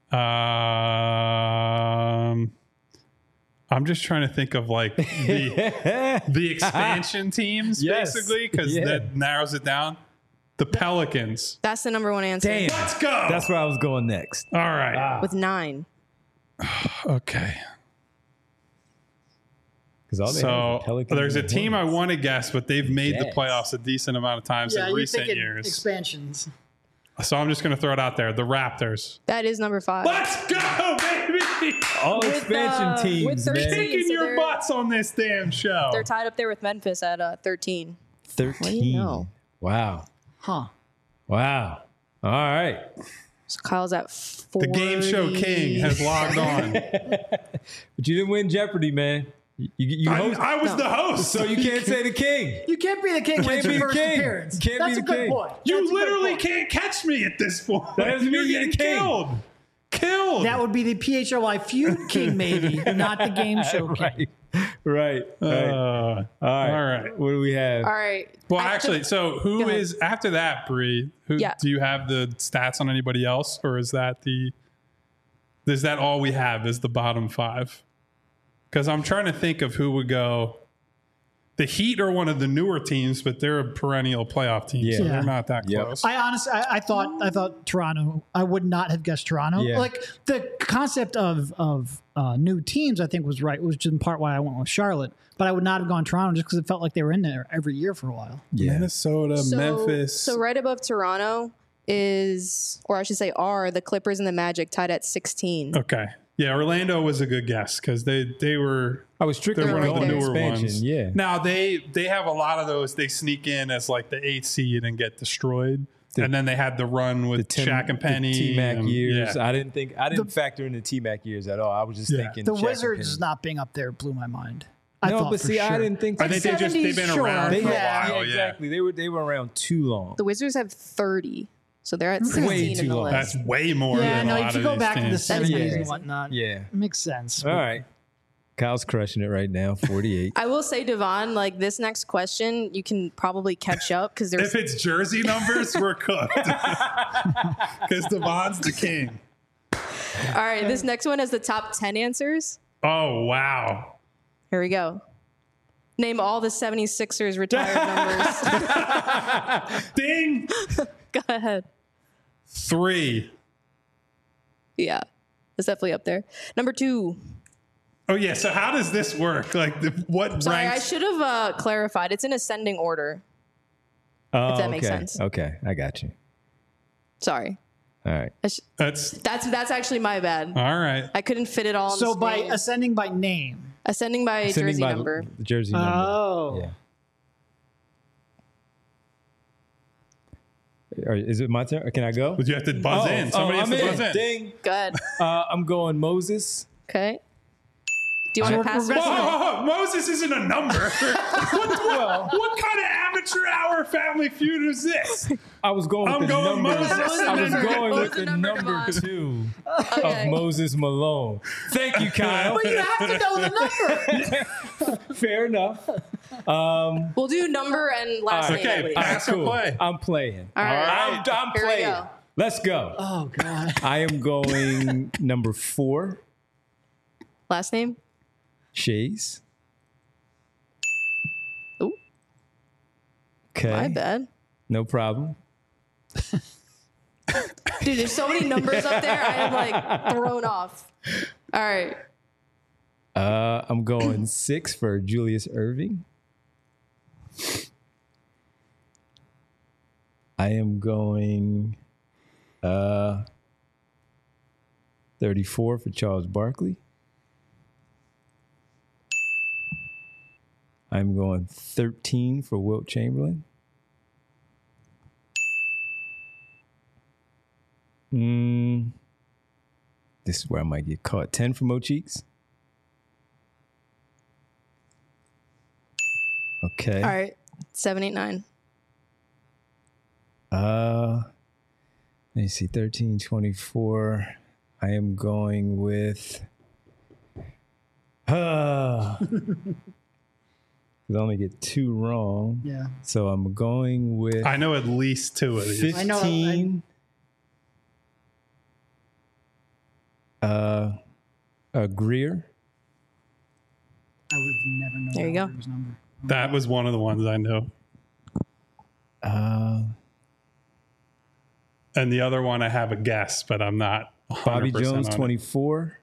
I'm just trying to think of like the expansion teams,
Yes.
basically, because
Yeah.
that narrows it down. The Pelicans.
That's the number 1 answer.
Damn.
Let's go.
That's where I was going next.
All right.
With 9.
Okay.
Because all they have is
So
the Pelicans
there's a
and the
team I
Hornets.
want to guess, but they've made the
Jazz.
playoffs a decent amount of times
Yeah,
in
you're
recent
thinking
years.
expansions.
So I'm just going to throw it out there. The Raptors.
That is number 5.
Let's go, baby.
All
With,
expansion teams,
with 13.
man.
Kicking
So
your
they're-
butts on this damn show.
They're tied up there with Memphis at 13.
13.
know?
Wow.
Huh.
Wow. All right.
So Kyle's at 40.
The game show king has logged on.
But you didn't win Jeopardy, man. You host.
I was the host.
So you can't say the king.
You can't be the king when it's
be
your
the
first
king.
appearance.
Can't
That's
be
a
the
good
king.
point.
You
That's a good
literally
point.
can't catch me at this point.
That doesn't mean
You're
you're the
getting
king.
killed.
That would be the PHLY feud king, maybe, not the game show king.
Right.
all
All right. What do we have?
All right.
Well,
I have to-
actually, so who
Go ahead.
is after that, Bree? Who
Yeah.
do you have the stats on anybody else, or is that all we have? Is the bottom 5? Because I'm trying to think of who would go. The Heat are one of the newer teams, but they're a perennial playoff team, so
Yeah.
they're not that
Yep.
close.
I honestly, I thought Toronto. I would not have guessed Toronto.
Yeah.
Like the concept of new teams, I think was right, which is in part why I went with Charlotte. But I would not have gone Toronto just because it felt like they were in there every year for a while.
Yeah.
Minnesota, Memphis.
So right above Toronto is, or I should say, are the Clippers and the Magic tied at 16.
Okay. Yeah, Orlando was a good guess because they were.
I was strictly
They're one of the
going
newer
expansion.
ones.
Yeah.
Now they have a lot of those. They sneak in as like the 8th seed and get destroyed, and then they had the run with Shaq and Penny,
T Mac
and-
years.
yeah.
I didn't factor in the T Mac years at all. I was just
Yeah.
thinking
The
Shaq and
Wizards
Penny.
not being up there blew my mind. I
No,
thought
but
for
see,
sure.
I didn't think.
I think they've
70s,
been
sure.
around
They
for a
had,
while.
yeah, exactly. They were around too long.
The Wizards have 30, so they're at 16
too
in the
long.
list.
That's way more.
Yeah,
than a
no,
lot
if you
of
go
these
back to the
teams.
70s
crazy.
and whatnot,
Yeah.
it makes sense.
All right. Kyle's crushing it right now. 48.
I will say, Devon, like this next question, you can probably catch up because there's
If it's jersey numbers, we're cooked. Because Devon's the king.
all right. This next one has the top 10 answers.
Oh wow!
Here we go. Name all the 76ers retired numbers.
Ding.
Go ahead.
3.
Yeah, it's definitely up there. Number 2.
Oh yeah. So how does this work? Like what
Sorry, I
ranks?
should have clarified. It's in ascending order.
Oh,
that makes
okay.
sense.
Okay, I got you.
Sorry.
All right.
That's actually my bad.
All right.
I couldn't fit it all on
So
the
by
screen.
ascending by name.
Ascending by
Sending
jersey
by
number.
the jersey number.
Oh.
Yeah. Or is it my turn? Or can I go?
But you have to buzz in. Somebody has
I'm
to buzz in.
Ding.
Good.
I'm going Moses.
Okay. Do you want to pass it?
Oh, Moses isn't a number. What kind of amateur hour Family Feud is this?
I was going with
I'm
the
going
number.
Moses.
I was going
What
with
was
the
the number,
number
Devon?
2
Okay.
of Moses Malone. Thank you, Kyle.
But you have to know the number.
Fair enough.
We'll do number and last name.
Okay,
at least.
pass or play?
I'm playing.
All right.
I'm
Here we
playing.
go.
Let's go.
Oh, God.
I am going number 4,
Last name?
Shays.
Ooh,
Okay.
my bad.
No problem.
Dude, there's so many numbers up there. I am like thrown off. All right.
I'm going 6 for Julius Irving. I am going 34 for Charles Barkley. I'm going 13 for Wilt Chamberlain. This is where I might get caught. 10 for Mo Cheeks. Okay.
All right. 7, 8, 9.
Let me see. 13, 24. I am going with. I only get 2 wrong.
Yeah.
So I'm going with
I know at least 2 of these.
15.
I know,
Greer.
I would never know
There you go.
His number.
That was one of the ones I know. And the other one I have a guess, but I'm not 100%
Bobby Jones,
on it.
24.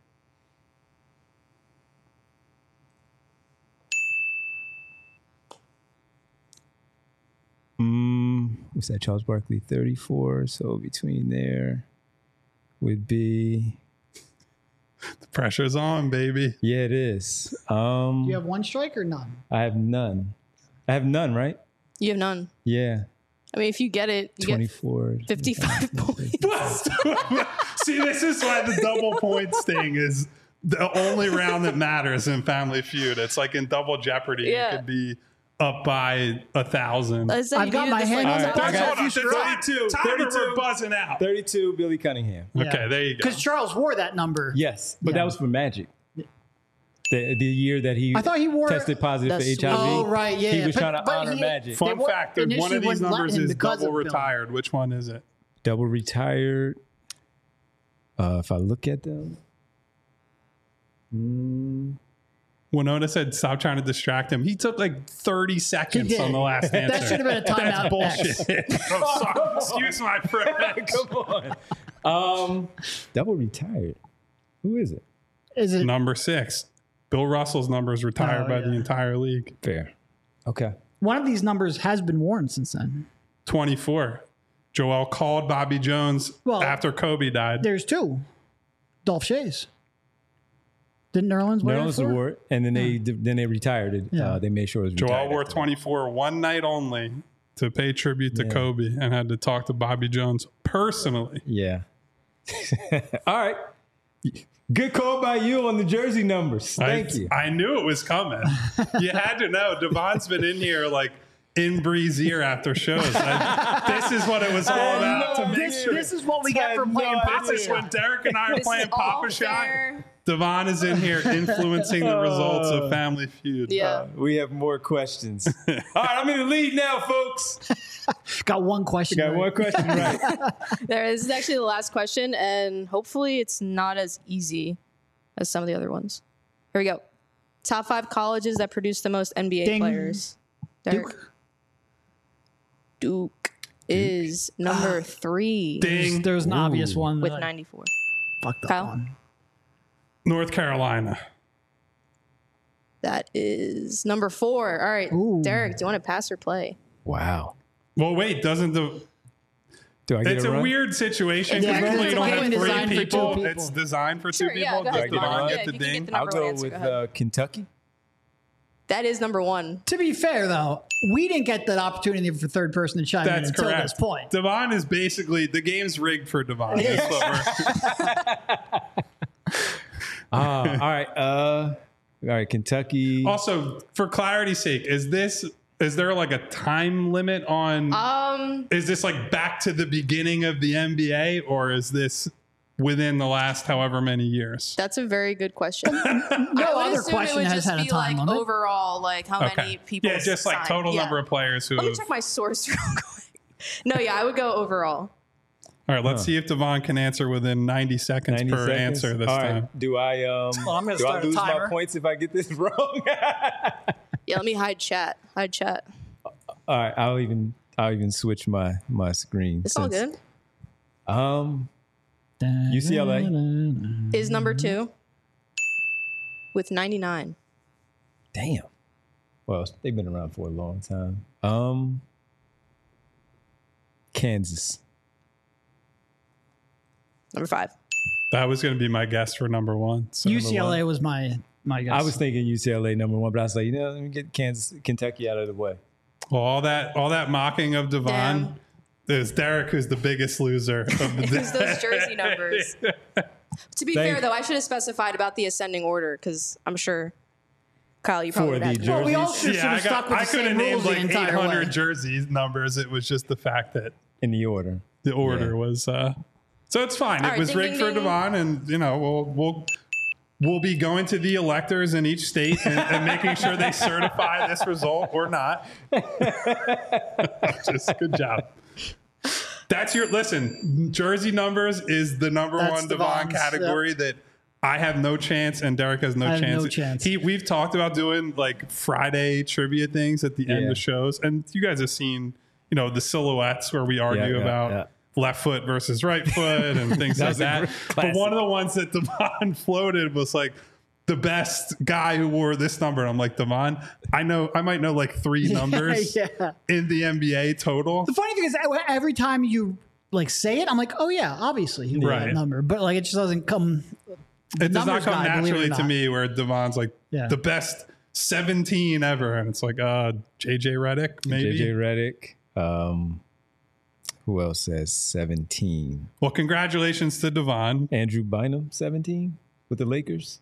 What's that? Charles Barkley, 34. So between there would be.
The pressure's on, baby.
Yeah, it is.
Do you have one strike or none?
I have none. I have none, right?
You have none.
Yeah.
I mean, if you get it, you
24.
get 55 points.
See, this is why the double points thing is the only round that matters in Family Feud. It's like in Double Jeopardy,
Yeah.
you could be up by 1,000.
I said
I've
you
got
needed
my
this,
hand on
like,
the
top-
pulse.
Hold on,
32,
Timer,
32.
we're buzzing out.
32, Billy Cunningham.
Okay, there you go.
Because Charles wore that number.
Yes, but
Yeah.
that was for Magic. The year that he
I thought he wore
tested positive for
That's
HIV.
Oh, right, yeah.
He was
but-
trying to
but
honor
he-
Magic.
Fun
They
fact, one
initially
of these
wouldn't let
numbers
him
is
because
double
of Bill.
retired. Which one is it?
Double retired. If I look at them,
Winona said, stop trying to distract him. He took like 30 seconds
did.
on the last answer.
That should have been a timeout.
That's bullshit. I'm sorry. Excuse my French.
come on. Double retired. Who is it?
Is it?
Number 6. Bill Russell's number is retired by the entire league.
Fair. Okay.
One of these numbers has been worn since then.
24. Joel called Bobby Jones
Well,
after Kobe died.
There's 2. Dolph Shays. Didn't Nerlens wear
Nerlens
it? for?
wore it, and then they retired it.
Yeah.
They made sure it was
Joel
retired
wore
after.
24 one night only to pay tribute to Kobe and had to talk to Bobby Jones personally.
Yeah. All right. Good call by you on the jersey numbers. Thank you.
I knew it was coming. You had to know. Devon's been in here like in Bree's ear after shows. This is what it was all about to make sure.
This is what we get for
had
playing
no
Papa
idea.
This is when
Shot.
Derek and I are
This
playing
is all
Papa Shot.
fair.
Devon is in here influencing the results of Family Feud.
Yeah.
We have more questions. All right, I'm in the lead now, folks.
Got one question.
Got
right.
one question right.
This is actually the last question, and hopefully it's not as easy as some of the other ones. Here we go. Top 5 colleges that produce the most NBA
Ding.
players. Derek. Duke is number 3
Ding.
There's an obvious one.
with
that I
94.
fucked up
Kyle?
on.
North Carolina.
That is number 4. All right,
Ooh.
Derek, do you want to pass or play?
Wow.
Well, wait, doesn't the...
Do I get
It's
a
a
run?
weird situation
Yeah,
because normally
it's
you don't
only
have 3
designed for 2
people.
people.
It's designed for
Sure,
2
yeah,
people.
go ahead.
Does Devon
Yeah,
get
if
the
you can get
ding?
the
I'll
number one
go
answer,
with
go ahead.
Kentucky.
That is number 1.
To be fair, though, we didn't get that opportunity for third person to chime in
That's
until
correct.
this point.
Devon is basically the game's rigged for Devon. That's what we're,
All right. All right. Kentucky.
also, for clarity's sake, is there like a time limit on? Is this like back to the beginning of the NBA, or is this within the last however many years?
That's a very good question.
No
I would
other
assume it
question
would
has
just
had a
be
time
like
limit.
overall, like how many people.
Yeah, just like
signed.
total
Yeah.
number of players who.
Let me
have-
check my source real quick. No, yeah, I would go overall.
All right, let's see if Devon can answer within 90 seconds
90
per
seconds.
answer this
All right.
time.
Do I
I'm gonna
do I
start a
lose my
timer.
points if I get this wrong?
Yeah, let me hide chat. Hide chat.
All right. I'll even switch my screen.
It's all
since-
good.
UCLA.
Is number 2 with 99.
Damn. Well, they've been around for a long time. Kansas.
Number 5.
That was going to be my guess for number 1. So
UCLA was my guess.
I was thinking UCLA number 1, but I was like, let me get Kentucky out of the way.
Well, all that mocking of Devon.
Damn.
There's Derek, who's the biggest loser of the
Because
day.
those jersey numbers. To be fair, though, I should have specified about the ascending order because I'm sure, Kyle, you probably
For
would
the
have.
jersey.
Well, we all should have stuck with
I
the
could have
same
named
rules the
like
entire
800
way.
jersey numbers. It was just the fact that
In the order.
the order
Yeah.
was. So it's fine.
All
It
right,
was
ding,
rigged
ding,
for
ding.
Devon, and we'll be going to the electors in each state and making sure they certify this result or not. Just good job. That's listen. Jersey numbers is the number
That's
one Devon
Devon's,
category that I have no chance and Derek has no
I have
chance.
no chance.
We've talked about doing like Friday trivia things at the end
Yeah.
of shows, and you guys have seen, the silhouettes where we argue
yeah,
about
yeah.
left foot versus right foot and things like
That's a
that.
great
But
classic.
one of the ones that Devon floated was like the best guy who wore this number. And I'm like, Devon, I might know like 3 numbers
Yeah.
in the NBA total.
The funny thing is, every time you like say it, I'm like, oh yeah, obviously he wore
Right.
that number, but like it just doesn't come.
It does not
numbers
come
guy, believe it or
naturally to
not.
me where Devon's like
Yeah.
the best 17 ever. And it's like, JJ Redick, maybe.
JJ Redick. Who else says 17?
Well, congratulations to Devon.
Andrew Bynum, 17 with the Lakers.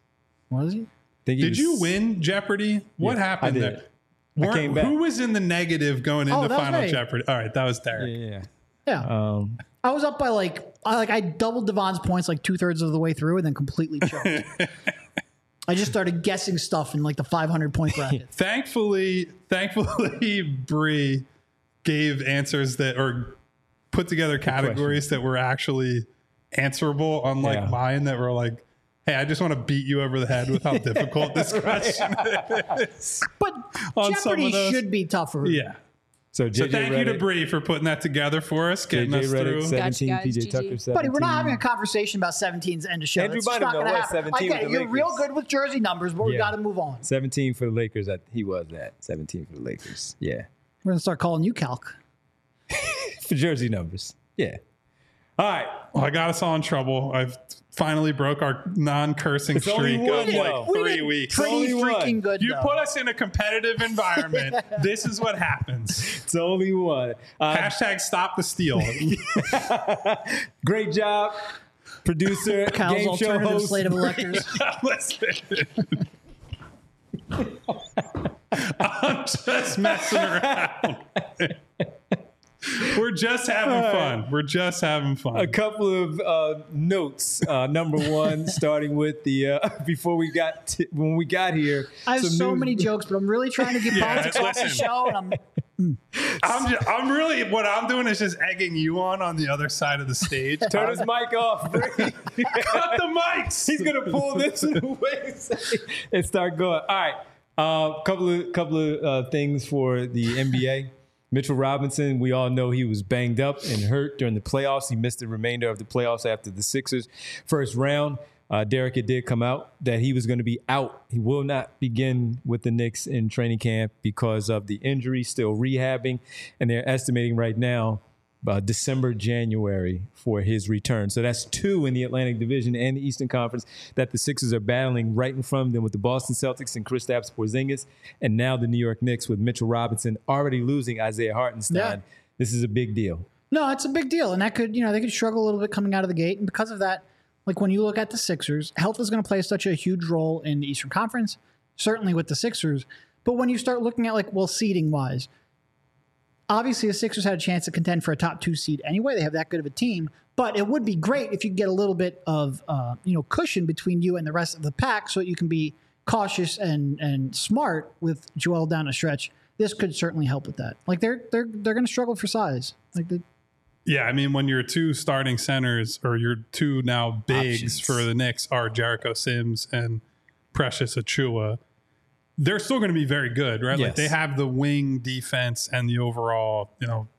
Was he?
Did you win Jeopardy? What happened there?
I came back.
Who was in the negative going into Final Jeopardy? All right, that was Derek.
Yeah. I was up by I doubled Devon's points like 2/3 of the way through and then completely choked. I just started guessing stuff in like the 500-point bracket.
Thankfully, Bree gave answers or put together categories that were actually answerable, unlike mine that were like, hey, I just want to beat you over the head with how difficult this question is.
But Jeopardy should be tougher.
Yeah. So thank you to Bree for putting that together for us, getting us through.
17,
gotcha,
PJ Tucker 17.
Buddy, we're not having a conversation about 17's end of show.
Andrew
That's not going to happen.
17
I get it. You're real good with jersey numbers, but we got to move on.
17 for the Lakers. He was at 17 for the Lakers. Yeah.
We're going to start calling you Calc.
For jersey numbers. Yeah. All right.
Well, I got us all in trouble. I've finally broke our non-cursing streak of like 3 weeks.
Pretty freaking good.
You put us in a competitive environment. This is what happens.
It's only one.
Hashtag stop the steal.
Great job, producer,
Cal's
game show
alternative
host.
slate of electors.
Listen. I'm just messing around. We're just having fun. We're just having fun.
A couple of notes. Number one, starting with the before we got when we got here.
I have so many jokes, but I'm really trying to get politics off the show, and
I'm really what I'm doing is just egging you on the other side of the stage.
Turn his mic off.
Cut the mics.
He's gonna pull this away and start going. All right, couple of things for the NBA. Mitchell Robinson, we all know he was banged up and hurt during the playoffs. He missed the remainder of the playoffs after the Sixers' first round. Derek, it did come out that he was going to be out. He will not begin with the Knicks in training camp because of the injury, still rehabbing. And they're estimating right now December, January for his return. So that's two in the Atlantic Division and the Eastern Conference that the Sixers are battling right in front of them with the Boston Celtics and Kristaps Porzingis, and now the New York Knicks with Mitchell Robinson already losing Isaiah Hartenstein. Yeah. This is a big deal.
No, it's a big deal, and that could, they could struggle a little bit coming out of the gate, and because of that, like when you look at the Sixers, health is going to play such a huge role in the Eastern Conference, certainly with the Sixers. But when you start looking at seeding wise. Obviously, the Sixers had a chance to contend for a top 2 seed anyway. They have that good of a team. But it would be great if you get a little bit of cushion between you and the rest of the pack so that you can be cautious and smart with Joel down the stretch. This could certainly help with that. Like they're going to struggle for size.
Yeah, I mean, when your two starting centers or your two now bigs for the Knicks are Jericho Sims and Precious Achiuwa, they're still going to be very good, right?
Yes.
Like they have the wing defense and the overall,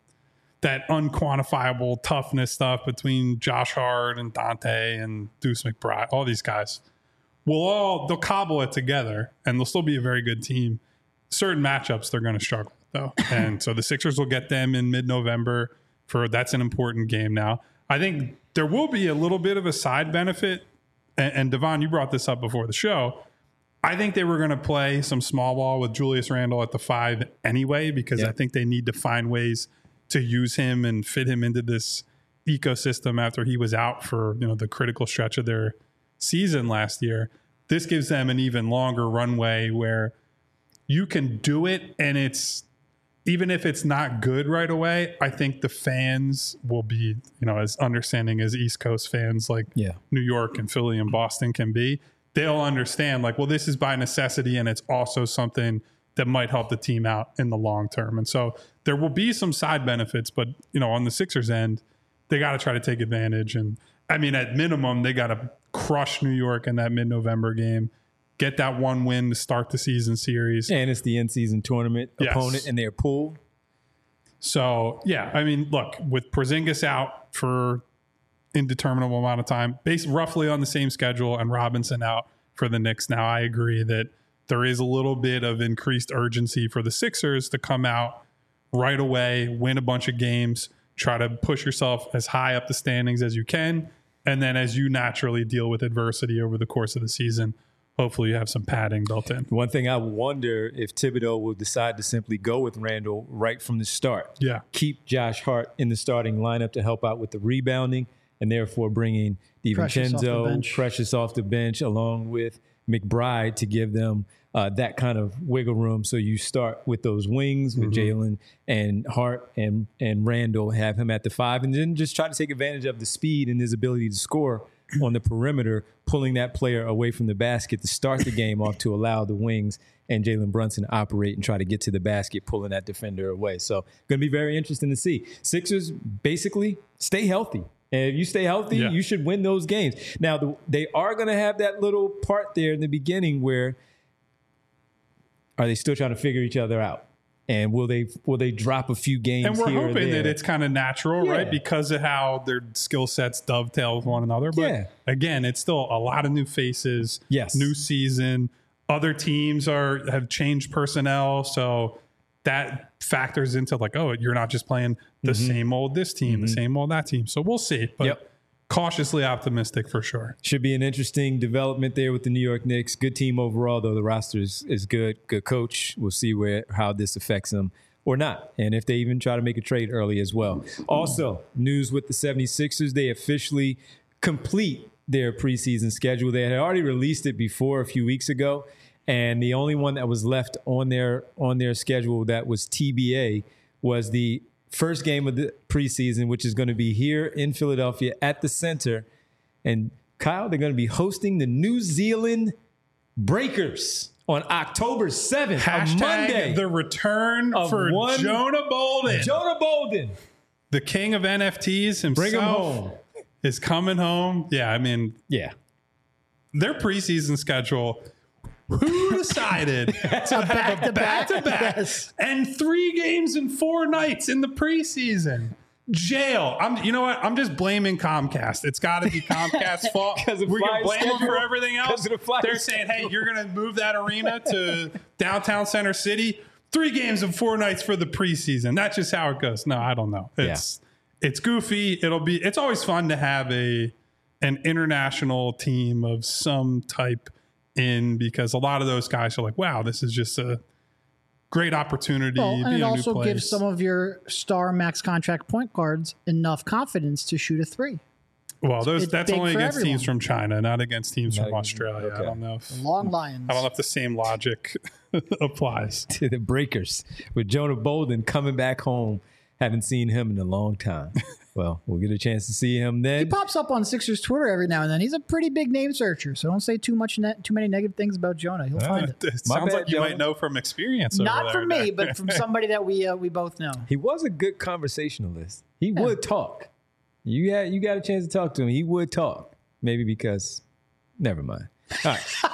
that unquantifiable toughness stuff between Josh Hart and Dante and Deuce McBride. All these guys they'll cobble it together and they'll still be a very good team. Certain matchups they're going to struggle though, and so the Sixers will get them in mid-November. That's an important game now. I think there will be a little bit of a side benefit, and Devon, you brought this up before the show. I think they were going to play some small ball with Julius Randle at the 5 anyway, because I think they need to find ways to use him and fit him into this ecosystem after he was out for the critical stretch of their season last year. This gives them an even longer runway where you can do it, and even if it's not good right away, I think the fans will be as understanding as East Coast fans like New York and Philly and Boston can be. They'll understand this is by necessity, and it's also something that might help the team out in the long term. And so there will be some side benefits, but on the Sixers end, they got to try to take advantage. And I mean, at minimum, they got to crush New York in that mid-November game, get that one win to start the season series.
And it's the in-season tournament opponent in their pool.
So, yeah, I mean, look, with Porzingis out for indeterminable amount of time, based roughly on the same schedule, and Robinson out for the Knicks now, I agree that there is a little bit of increased urgency for the Sixers to come out right away, win a bunch of games, try to push yourself as high up the standings as you can, and then as you naturally deal with adversity over the course of the season, hopefully you have some padding built in.
One thing I wonder if Thibodeau will decide to simply go with Randle right from the start.
Yeah.
Keep Josh Hart in the starting lineup to help out with the rebounding, and therefore bringing DiVincenzo, Precious off the bench, along with McBride to give them that kind of wiggle room. So you start with those wings with Jalen and Hart and Randall, have him at the 5, and then just try to take advantage of the speed and his ability to score on the perimeter, pulling that player away from the basket to start the game off to allow the wings and Jalen Brunson to operate and try to get to the basket, pulling that defender away. So going to be very interesting to see. Sixers basically stay healthy. And if you stay healthy, you should win those games. Now, they are going to have that little part there in the beginning where are they still trying to figure each other out? And will they drop a few games
and we're
here
hoping
or there?
that it's kind of natural, right? Because of how their skill sets dovetail with one another. But again, it's still a lot of new faces, new season. Other teams have changed personnel. So that factors into like, oh, you're not just playing the same old this team, the same old that team. So we'll see. But cautiously optimistic for sure.
Should be an interesting development there with the New York Knicks. Good team overall, though. The roster is good. Good coach. We'll see how this affects them or not, and if they even try to make a trade early as well. Also, news with the 76ers. They officially complete their preseason schedule. They had already released it before a few weeks ago, and the only one that was left on their schedule that was TBA was the first game of the preseason, which is going to be here in Philadelphia at the Center. And Kyle, they're going to be hosting the New Zealand Breakers on October 7th,
Hashtag
Monday.
The return for Jonah Bolden.
Jonah Bolden.
The king of NFTs himself.
Bring him home.
Is coming home. Yeah, I mean, their preseason schedule. Who decided to have a back-to-back and 3 games and 4 nights in the preseason? Jail. You know what? I'm just blaming Comcast. It's got to be Comcast's fault. We're going to blame them for everything else. They're saying, hey, you're going to move that arena to downtown Center City. 3 games and 4 nights for the preseason. That's just how it goes. No, I don't know. It's goofy. It's always fun to have an international team of some type in, because a lot of those guys are like, wow, this is just a great opportunity.
And it also gives some of your star max contract point guards enough confidence to shoot a 3.
Well, that's only against teams from China, not against teams from Australia.
Okay.
I don't know if
the Long Lions.
I don't know if the same logic applies
to the Breakers with Jonah Bolden coming back home. Haven't seen him in a long time. Well, we'll get a chance to see him then.
He pops up on Sixers Twitter every now and then. He's a pretty big name searcher, so don't say too many negative things about Jonah. He'll find it.
It sounds like you might know from experience.
Not from me, but from somebody that we both know.
He was a good conversationalist. He would talk. You got a chance to talk to him. He would talk. Maybe because, never mind. All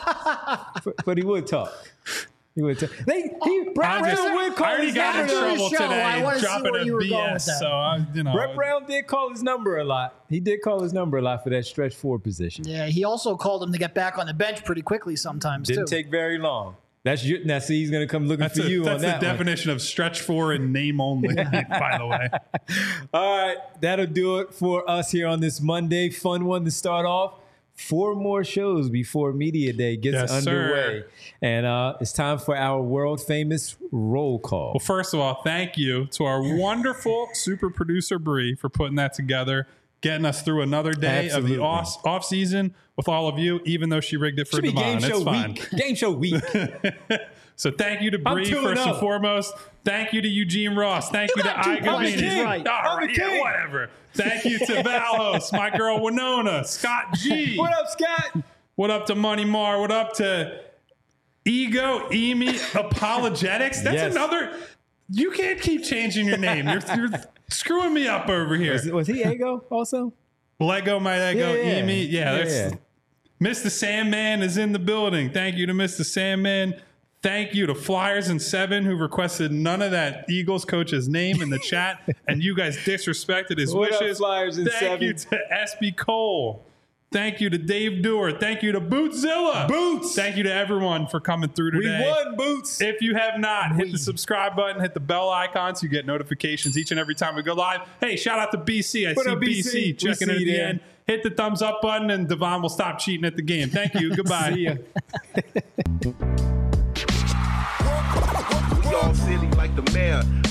right, but he would talk. He would talk. Brett
Brown got in trouble today dropping a BS. So
Brett Brown did call his number a lot. He did call his number a lot for that stretch 4 position.
Yeah, he also called him to get back on the bench pretty quickly sometimes.
Didn't take very long. Now see, he's going to come looking for you on that.
That's the definition of stretch 4 and name only, by the way.
All right, that'll do it for us here on this Monday. Fun one to start off. 4 more shows before Media Day gets underway.
Sir.
And it's time for our world famous roll call.
Well, first of all, thank you to our wonderful super producer, Bree, for putting that together, getting us through another day of the off season with all of you, even though she rigged it for Devon. It's fine.
Game show week.
So thank you to Bree first and foremost. Thank you to Eugene Ross. Thank you to Igavini.
Right.
All right, whatever. Thank you to Valhos, my girl Winona, Scott G.
What up, Scott?
What up to Money Mar? What up to Ego Emi Apologetics? That's another. You can't keep changing your name. You're screwing me up over here.
Was he Ego also?
Lego, my Lego, Emi. Yeah. Mr. Sandman is in the building. Thank you to Mr. Sandman. Thank you to Flyers and 7 who requested none of that Eagles coach's name in the chat, and you guys disrespected his wishes.
Up, Flyers and 7.
Thank you to SB Cole. Thank you to Dave Dewar. Thank you to Bootzilla.
Boots.
Thank you to everyone for coming through today.
We won, Boots.
If you have not, hit the subscribe button, hit the bell icon so you get notifications each and every time we go live. Hey, shout out to BC. I see BC checking in at the end. Hit the thumbs up button, and Devon will stop cheating at the game. Thank you. Goodbye.
See ya.
We all silly like the mayor.